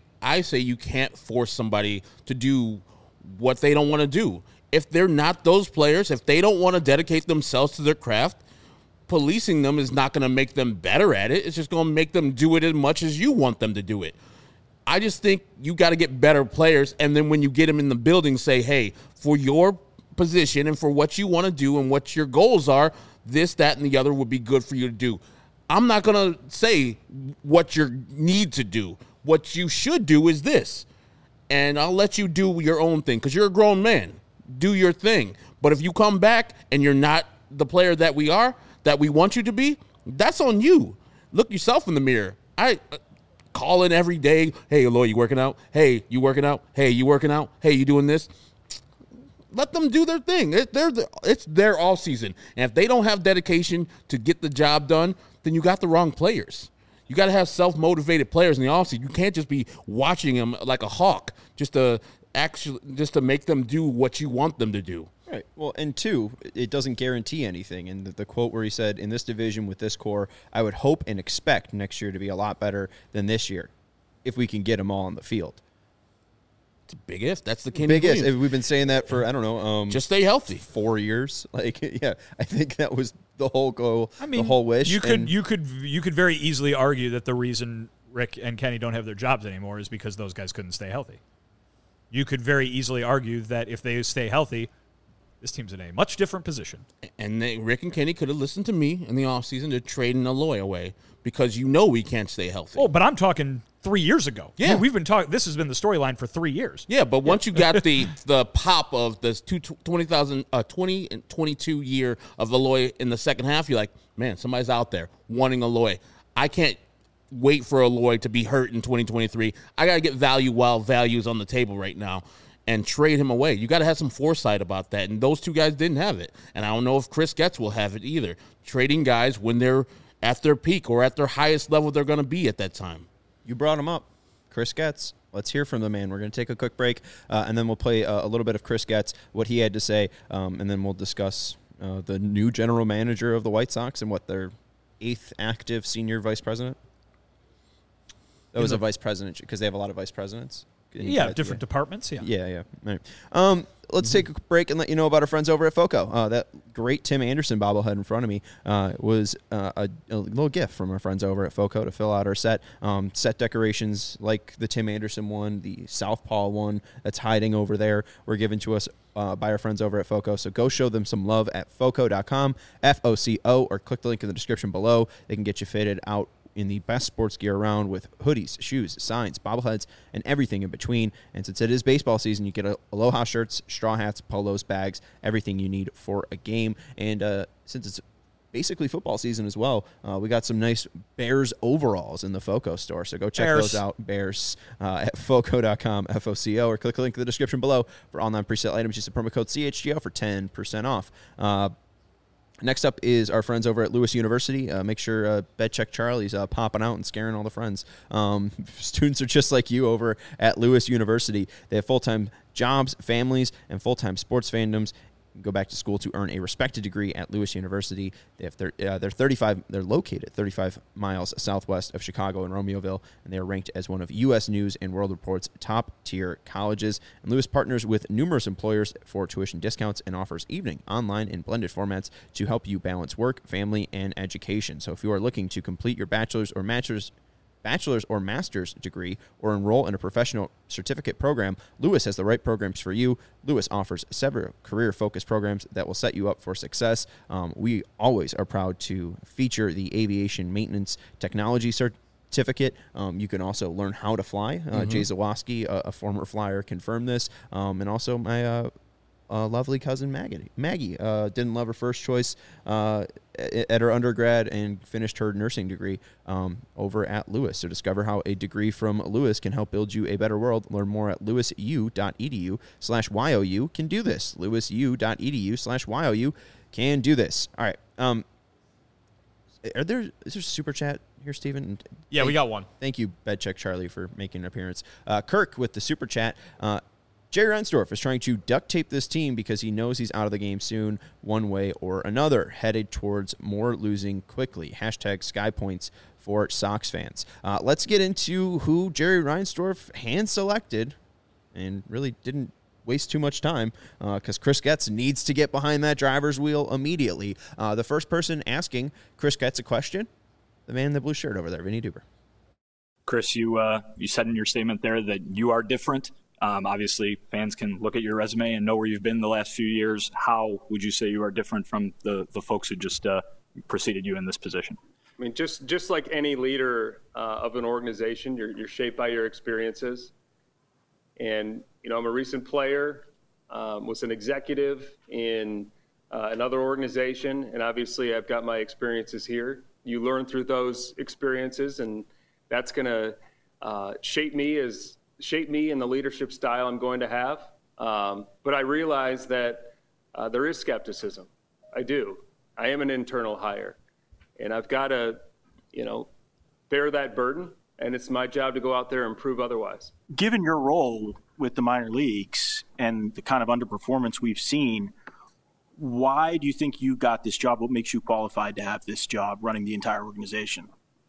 force somebody to do what they don't want to do. If they're not those players, if they don't want to dedicate themselves to their craft, policing them is not going to make them better at it. It's just going to make them do it as much as you want them to do it. I just think you got to get better players, and then when you get them in the building, say, hey, for your position and for what you want to do and what your goals are, this, that, and the other would be good for you to do. I'm not going to say what you need to do. What you should do is this. And I'll let you do your own thing because you're a grown man. Do your thing. But if you come back and you're not the player that we want you to be, that's on you. Look yourself in the mirror. I call in every day. Hey, Eloy, you working out? Hey, you working out? Hey, you working out? Hey, you doing this? Let them do their thing. It's their all season. And if they don't have dedication to get the job done, then you got the wrong players. You got to have self-motivated players in the offseason. You can't just be watching them like a hawk just to make them do what you want them to do. Right. Well, and two, it doesn't guarantee anything. And the quote where he said, in this division with this core, I would hope and expect next year to be a lot better than this year if we can get them all on the field. It's a big if. That's the Kenny big Williams. if. We've been saying that for, I don't know. Just stay healthy. 4 years. I think that was the whole goal, I mean, the whole wish. You could very easily argue that the reason Rick and Kenny don't have their jobs anymore is because those guys couldn't stay healthy. You could very easily argue that if they stay healthy, this team's in a much different position. And Rick and Kenny could have listened to me in the offseason to trade Eloy away because we can't stay healthy. Oh, but I'm talking 3 years ago. Yeah. We've been talking. This has been the storyline for 3 years. Yeah, but once you got the pop of this 20 and 22 year of Eloy in the second half, you're like, man, somebody's out there wanting Eloy. I can't wait for Eloy to be hurt in 2023. I got to get value while value's on the table right now and trade him away. You got to have some foresight about that, and those two guys didn't have it. And I don't know if Chris Getz will have it either. Trading guys when they're at their peak or at their highest level they're going to be at that time. You brought him up, Chris Getz. Let's hear from the man. We're going to take a quick break, and then we'll play a little bit of Chris Getz, what he had to say, and then we'll discuss the new general manager of the White Sox and what their 8th active senior vice president. That was a vice president because they have a lot of vice presidents. Yeah, different departments. Yeah. Yeah. Right. Let's take a break and let you know about our friends over at FOCO. That great Tim Anderson bobblehead in front of me was a little gift from our friends over at FOCO to fill out our set. Set decorations like the Tim Anderson one, the Southpaw one that's hiding over there, were given to us by our friends over at FOCO. So go show them some love at FOCO.com, FOCO, or click the link in the description below. They can get you fitted out in the best sports gear around with hoodies, shoes, signs, bobbleheads, and everything in between. And since it is baseball season, you get Aloha shirts, straw hats, polos, bags, everything you need for a game. And since it's basically football season as well, we got some nice Bears overalls in the FOCO store. So go check those out, Bears, at FOCO.com, FOCO, or click the link in the description below for all non-presale items. Use the promo code CHGO for 10% off. Next up is our friends over at Lewis University. Make sure BedCheck Charlie's popping out and scaring all the friends. Students are just like you over at Lewis University. They have full-time jobs, families, and full-time sports fandoms. Go back to school to earn a respected degree at Lewis University. They have they're located 35 miles southwest of Chicago in Romeoville, and they are ranked as one of U.S. News and World Report's top-tier colleges. And Lewis partners with numerous employers for tuition discounts and offers evening, online, and blended formats to help you balance work, family, and education. So if you are looking to complete your bachelor's or master's degree or enroll in a professional certificate program, Lewis has the right programs for you. Lewis offers several career-focused programs that will set you up for success. We always are proud to feature the Aviation Maintenance Technology certificate. You can also learn how to fly. Jay Zawoski, a former flyer, confirmed this. And also my lovely cousin Maggie didn't love her first choice at her undergrad and finished her nursing degree over at Lewis. So discover how a degree from Lewis can help build you a better world. Learn more at lewisu.edu/YOU. Can do this. lewisu.edu/YOU can do this. All right. Is there super chat here, Steven? Yeah, we got one. Thank you, BedCheck Charlie, for making an appearance. Kirk with the super chat. Jerry Reinsdorf is trying to duct tape this team because he knows he's out of the game soon, one way or another, headed towards more losing quickly. # Sky Points for Sox fans. Let's get into who Jerry Reinsdorf hand-selected and really didn't waste too much time because Chris Getz needs to get behind that driver's wheel immediately. The first person asking Chris Getz a question, the man in the blue shirt over there, Vinny Duber. Chris, you said in your statement there that you are different. Obviously, fans can look at your resume and know where you've been the last few years. How would you say you are different from the folks who just preceded you in this position? I mean, just like any leader of an organization, you're shaped by your experiences. And, I'm a recent player, was an executive in another organization, and obviously I've got my experiences here. You learn through those experiences, and that's going to shape me in the leadership style I'm going to have. But I realize that there is skepticism. I do. I am an internal hire. And I've got to, bear that burden. And it's my job to go out there and prove otherwise. Given your role with the minor leagues and the kind of underperformance we've seen, why do you think you got this job? What makes you qualified to have this job running the entire organization?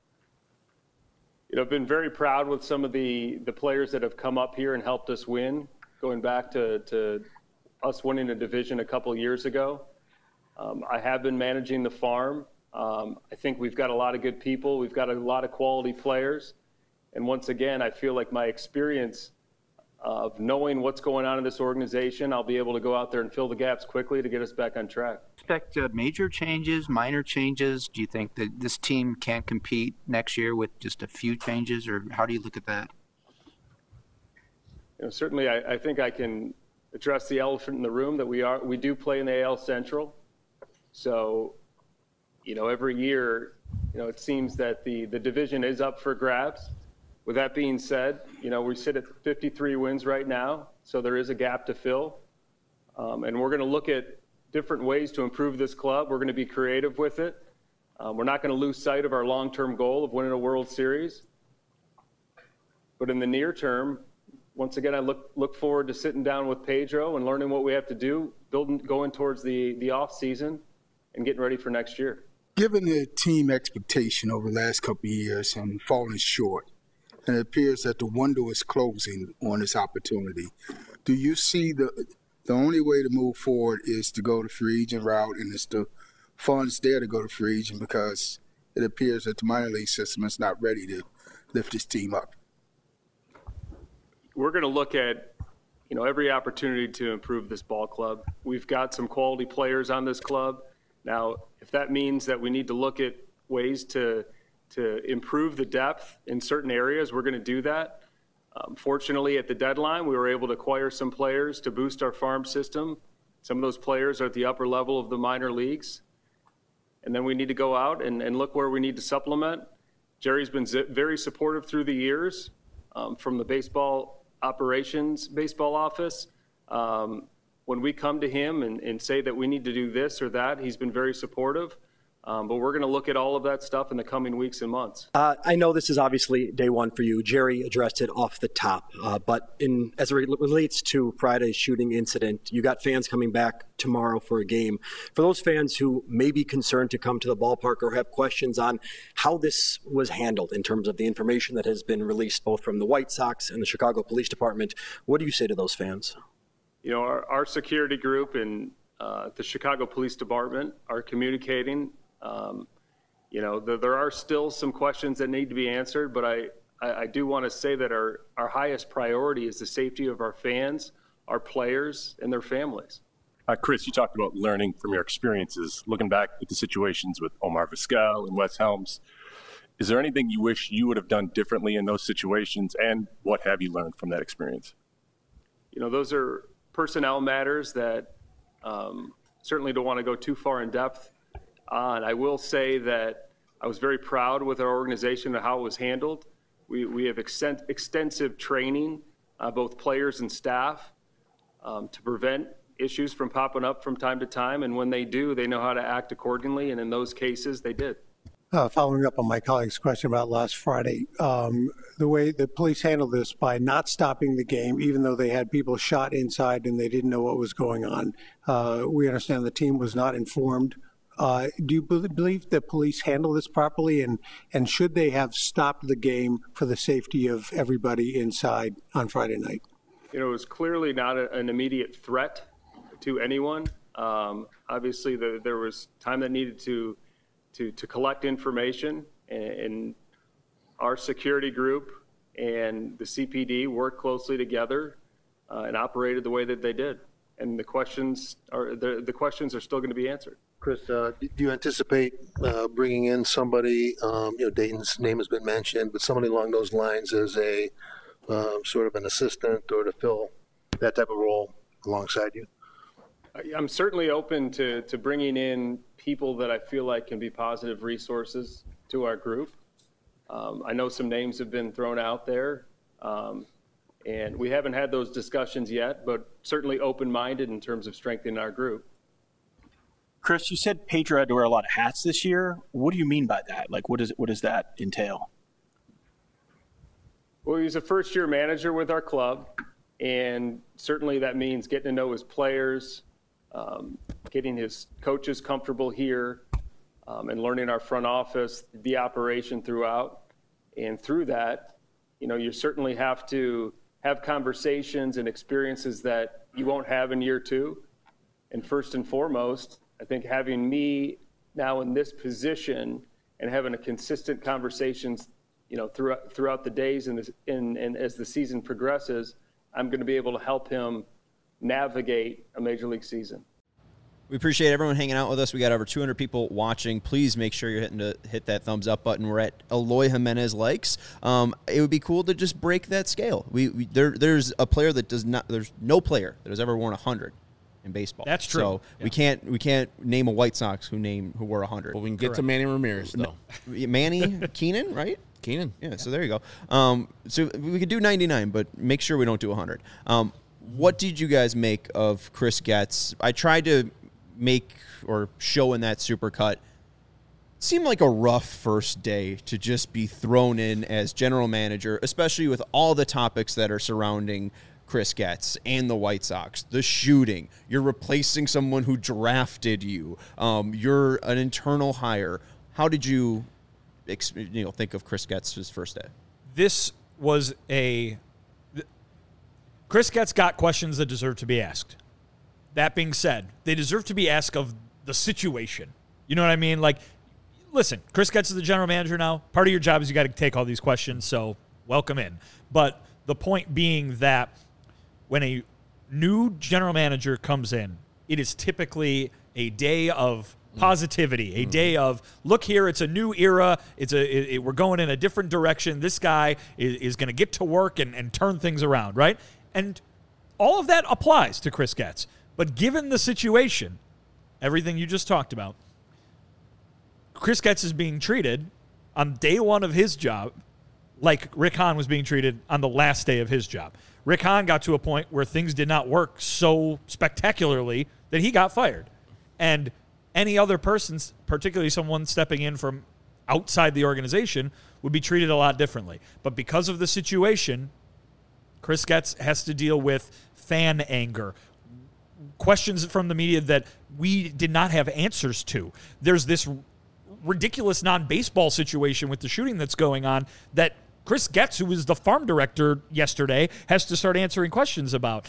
I've been very proud with some of the players that have come up here and helped us win, going back to us winning a division a couple years ago. I have been managing the farm. I think we've got a lot of good people. We've got a lot of quality players. And once again, I feel like my experience of knowing what's going on in this organization, I'll be able to go out there and fill the gaps quickly to get us back on track. Expect major changes, minor changes? Do you think that this team can't compete next year with just a few changes, or how do you look at that? Certainly, I think I can address the elephant in the room that we do play in the AL Central. So, every year, it seems that the division is up for grabs. With that being said, we sit at 53 wins right now, so there is a gap to fill. And we're going to look at different ways to improve this club. We're going to be creative with it. We're not going to lose sight of our long-term goal of winning a World Series. But in the near term, once again, I look forward to sitting down with Pedro and learning what we have to do, going towards the off season and getting ready for next year. Given the team expectation over the last couple of years and falling short, and it appears that the window is closing on this opportunity, do you see the only way to move forward is to go the free agent route, and it's the funds there to go to free agent because it appears that the minor league system is not ready to lift this team up? We're going to look at, every opportunity to improve this ball club. We've got some quality players on this club. Now, if that means that we need to look at ways to improve the depth in certain areas, we're going to do that. Fortunately, at the deadline, we were able to acquire some players to boost our farm system. Some of those players are at the upper level of the minor leagues. And then we need to go out and look where we need to supplement. Jerry's been very supportive through the years from the baseball office. When we come to him and say that we need to do this or that, he's been very supportive. But we're going to look at all of that stuff in the coming weeks and months. I know this is obviously day one for you. Jerry addressed it off the top. But as it relates to Friday's shooting incident, you got fans coming back tomorrow for a game. For those fans who may be concerned to come to the ballpark or have questions on how this was handled in terms of the information that has been released both from the White Sox and the Chicago Police Department, what do you say to those fans? Our security group and the Chicago Police Department are communicating. There are still some questions that need to be answered, but I do want to say that our highest priority is the safety of our fans, our players, and their families. Chris, you talked about learning from your experiences. Looking back at the situations with Omar Vizquel and Wes Helms, is there anything you wish you would have done differently in those situations, and what have you learned from that experience? Those are personnel matters that certainly don't want to go too far in depth on. I will say that I was very proud with our organization and how it was handled. We have extensive training, both players and staff, to prevent issues from popping up from time to time. And when they do, they know how to act accordingly. And in those cases, they did. Following up on my colleague's question about last Friday, the way the police handled this by not stopping the game, even though they had people shot inside and they didn't know what was going on. We understand the team was not informed. Do you believe the police handled this properly, and should they have stopped the game for the safety of everybody inside on Friday night? It was clearly not an immediate threat to anyone. Obviously, there was time that needed to collect information, and our security group and the CPD worked closely together and operated the way that they did. And the questions are still going to be answered. Chris, do you anticipate bringing in somebody, Dayton's name has been mentioned, but somebody along those lines as a sort of an assistant or to fill that type of role alongside you? I'm certainly open to bringing in people that I feel like can be positive resources to our group. I know some names have been thrown out there, and we haven't had those discussions yet, but certainly open-minded in terms of strengthening our group. Chris, you said Pedro had to wear a lot of hats this year. What do you mean by that? Like, what does that entail? Well, he's a first-year manager with our club, and certainly that means getting to know his players, getting his coaches comfortable here, and learning our front office, the operation throughout. And through that, you certainly have to have conversations and experiences that you won't have in year two. And first and foremost, I think having me now in this position and having a consistent conversations, throughout the days and as the season progresses, I'm going to be able to help him navigate a major league season. We appreciate everyone hanging out with us. We got over 200 people watching. Please make sure you're hit that thumbs up button. We're at Eloy Jimenez likes. It would be cool to just break that scale. There's a player that does not. There's no player that has ever worn 100 in baseball. That's true. So we can't name a White Sox who wore 100. Well, we can get to Manny Ramirez though. Manny Keenan, right? Keenan. Yeah. So there you go. So we could do 99, but make sure we don't do 100. What did you guys make of Chris Getz? I tried to make or show in that Supercut. Seemed like a rough first day to just be thrown in as general manager, especially with all the topics that are surrounding Chris Getz and the White Sox. The shooting, you're replacing someone who drafted you. You're an internal hire. How did you think of Chris Getz's first day? This was Chris Getz got questions that deserve to be asked. That being said, they deserve to be asked of the situation. You know what I mean? Like, listen, Chris Getz is the general manager now. Part of your job is you got to take all these questions, so welcome in. But the point being that when a new general manager comes in, it is typically a day of positivity, a day of, look here, it's a new era, we're going in a different direction, this guy is going to get to work and turn things around, right? And all of that applies to Chris Getz. But given the situation, everything you just talked about, Chris Getz is being treated on day one of his job like Rick Hahn was being treated on the last day of his job. Rick Hahn got to a point where things did not work so spectacularly that he got fired. And any other person, particularly someone stepping in from outside the organization, would be treated a lot differently. But because of the situation, Chris Getz has to deal with fan anger, questions from the media that we did not have answers to. There's this ridiculous non-baseball situation with the shooting that's going on that Chris Getz, who was the farm director yesterday, has to start answering questions about.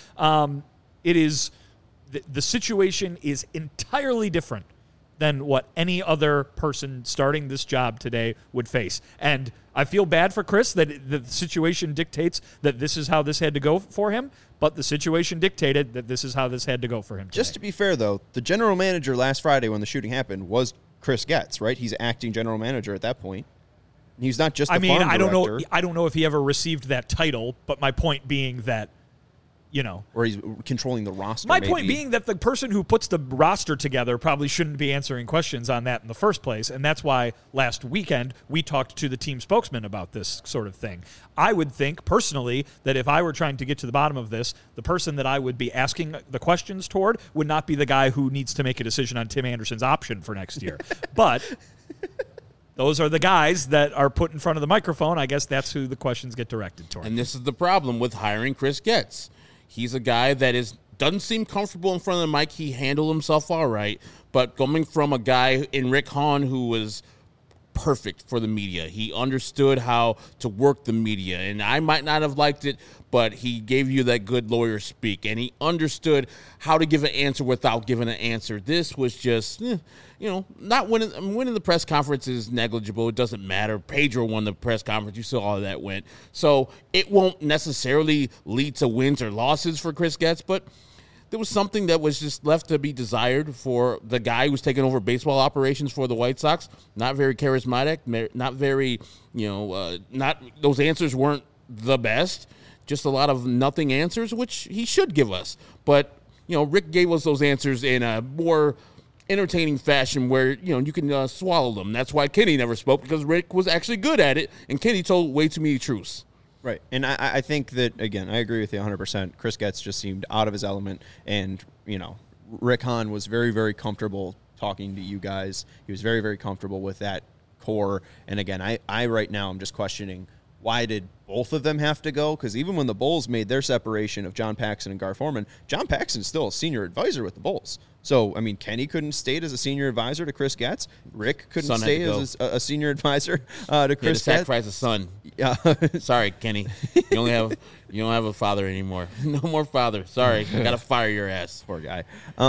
The situation is entirely different than what any other person starting this job today would face. And I feel bad for Chris that the situation dictates that this is how this had to go for him, but the situation dictated that this is how this had to go for him today. Just to be fair, though, the general manager last Friday when the shooting happened was Chris Getz, right? He's acting general manager at that point. He's not just the farm director. I don't know if he ever received that title, but my point being that, or he's controlling the roster. My point being that the person who puts the roster together probably shouldn't be answering questions on that in the first place, and that's why last weekend we talked to the team spokesman about this sort of thing. I would think, personally, that if I were trying to get to the bottom of this, the person that I would be asking the questions toward would not be the guy who needs to make a decision on Tim Anderson's option for next year. But those are the guys that are put in front of the microphone. I guess that's who the questions get directed toward. And this is the problem with hiring Chris Getz. He's a guy that doesn't seem comfortable in front of the mic. He handled himself all right. But coming from a guy in Rick Hahn who was perfect for the media, he understood how to work the media. And I might not have liked it, but he gave you that good lawyer speak. And he understood how to give an answer without giving an answer. This was just, not winning the press conference is negligible. It doesn't matter. Pedro won the press conference. You saw how that went. So it won't necessarily lead to wins or losses for Chris Getz, but there was something that was just left to be desired for the guy who's taking over baseball operations for the White Sox. Not very charismatic, not very, those answers weren't the best. Just a lot of nothing answers, which he should give us. But, Rick gave us those answers in a more entertaining fashion where, you can swallow them. That's why Kenny never spoke, because Rick was actually good at it, and Kenny told way too many truths. Right. And I think that, again, I agree with you 100%. Chris Getz just seemed out of his element. And, Rick Hahn was very, very comfortable talking to you guys. He was very, very comfortable with that core. And, again, I right now I'm just questioning, why did both of them have to go? Because even when the Bulls made their separation of John Paxson and Gar Forman, John Paxson's still a senior advisor with the Bulls. So, Kenny couldn't state as a senior advisor to Chris Getz. Rick couldn't stay as a senior advisor to Chris Getz. Sacrifice a son. Yeah. Sorry, Kenny. You don't have a father anymore. No more father. Sorry. I got to fire your ass. Poor guy.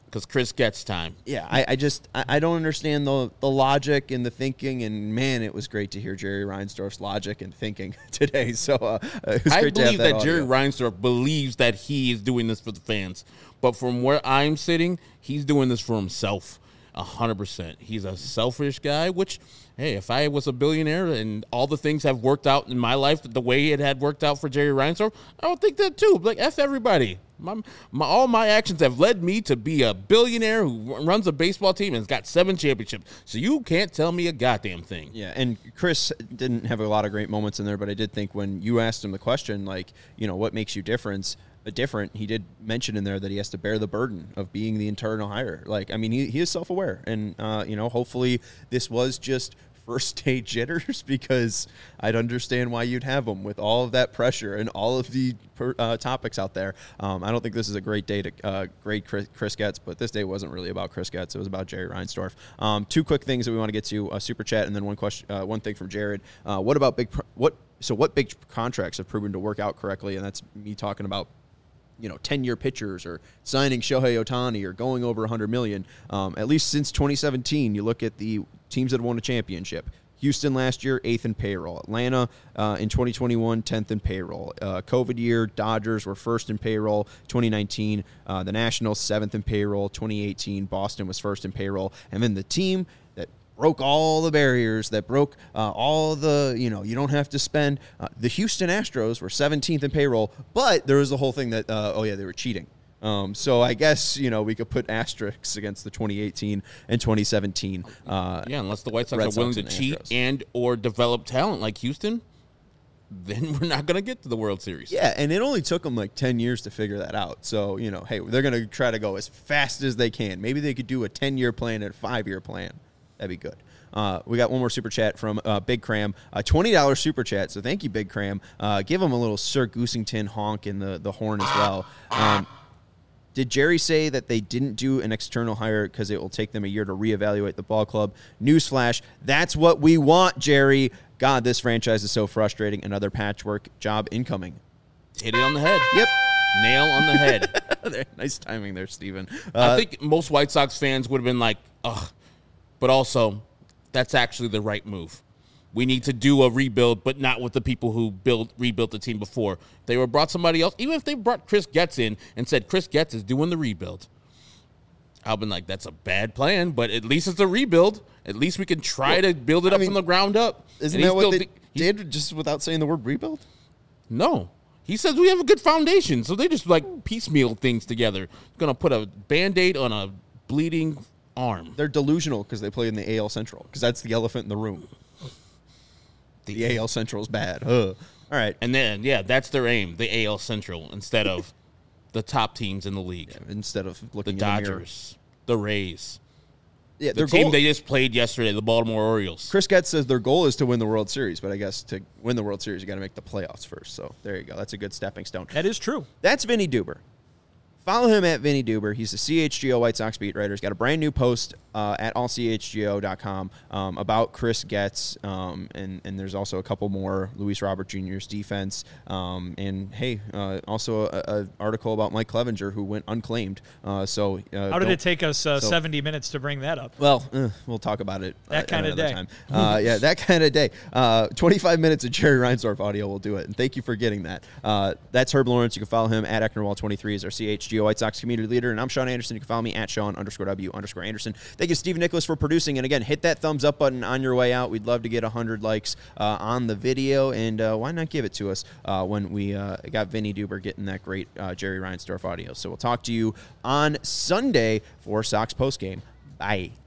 because Chris gets time. Yeah, I don't understand the logic and the thinking, and man, it was great to hear Jerry Reinsdorf's logic and thinking today. So it was I great to have believe that audio. Jerry Reinsdorf believes that he is doing this for the fans, but from where I'm sitting, he's doing this for himself, 100%. He's a selfish guy, which, hey, if I was a billionaire and all the things have worked out in my life the way it had worked out for Jerry Reinsdorf, I would think that too. Like, F everybody. All my actions have led me to be a billionaire who runs a baseball team and has got 7 championships. So you can't tell me a goddamn thing. Yeah, and Chris didn't have a lot of great moments in there, but I did think when you asked him the question, like, what makes you different, he did mention in there that he has to bear the burden of being the internal hire. Like, I mean, he is self-aware, and, hopefully this was just first-day jitters, because I'd understand why you'd have them with all of that pressure and all of the topics out there. I don't think this is a great day to grade Chris Getz, but this day wasn't really about Chris Getz. It was about Jerry Reinsdorf. 2 quick things that we want to get to, Super Chat, and then one thing from Jared. What big contracts have proven to work out correctly? And that's me talking about 10-year pitchers or signing Shohei Ohtani or going over $100 million. At least since 2017, you look at the teams that have won a championship. Houston last year, 8th in payroll. Atlanta in 2021, 10th in payroll. COVID year, Dodgers were 1st in payroll. 2019, the Nationals, 7th in payroll. 2018, Boston was 1st in payroll. And then the team that broke all the barriers, that broke all the, you don't have to spend. The Houston Astros were 17th in payroll, but there was the whole thing that, they were cheating. So I guess, we could put asterisks against the 2018 and 2017. Unless the White Sox are willing to cheat and or develop talent like Houston, then we're not going to get to the World Series. Yeah, and it only took them like 10 years to figure that out. So, hey, they're going to try to go as fast as they can. Maybe they could do a 10-year plan and a 5-year plan. That'd be good. We got one more super chat from Big Cram, $20 super chat. So thank you, Big Cram. Give him a little Sir Goosington honk in the horn as well. Did Jerry say that they didn't do an external hire because it will take them a year to reevaluate the ball club? Newsflash, that's what we want, Jerry. God, this franchise is so frustrating. Another patchwork job incoming. Hit it on the head. Yep. Nail on the head. Nice timing there, Steven. I think most White Sox fans would have been like, ugh. But also, that's actually the right move. We need to do a rebuild, but not with the people who rebuilt the team before. If they were brought somebody else, even if they brought Chris Getz in and said Chris Getz is doing the rebuild, I've been like, that's a bad plan, but at least it's a rebuild. At least we can try to build it up from the ground up. Isn't that what they did, just without saying the word rebuild? No. He says we have a good foundation, so they just like piecemeal things together. Going to put a Band-Aid on a bleeding arm. They're delusional because they play in the AL Central, because that's the elephant in the room. The AL Central is bad. All right. And then, that's their aim, the AL Central, instead of the top teams in the league. Yeah, instead of looking the at Dodgers, the Rays. Yeah, the team they just played yesterday, the Baltimore Orioles. Chris Getz says their goal is to win the World Series, but I guess to win the World Series, you got to make the playoffs first. So there you go. That's a good stepping stone. That is true. That's Vinny Duber. Follow him at Vinny Duber. He's a CHGO White Sox beat writer. He's got a brand new post at allchgo.com about Chris Getz, and there's also a couple more, Luis Robert Jr.'s defense, and hey, also an article about Mike Clevenger, who went unclaimed. How did it take us 70 minutes to bring that up? Well, we'll talk about it that kind of day. Time. That kind of day. 25 minutes of Jerry Reinsdorf audio will do it, and thank you for getting that. That's Herb Lawrence. You can follow him at Ecknerwall23 is our CHGO White Sox community leader, and I'm Sean Anderson. You can follow me at Sean_W_Anderson. Thank you to Stephen Nicholas for producing, and again, hit that thumbs up button on your way out. We'd love to get 100 likes on the video, and why not give it to us when we got Vinny Duber getting that great Jerry Reinsdorf audio. So we'll talk to you on Sunday for Sox postgame. Bye.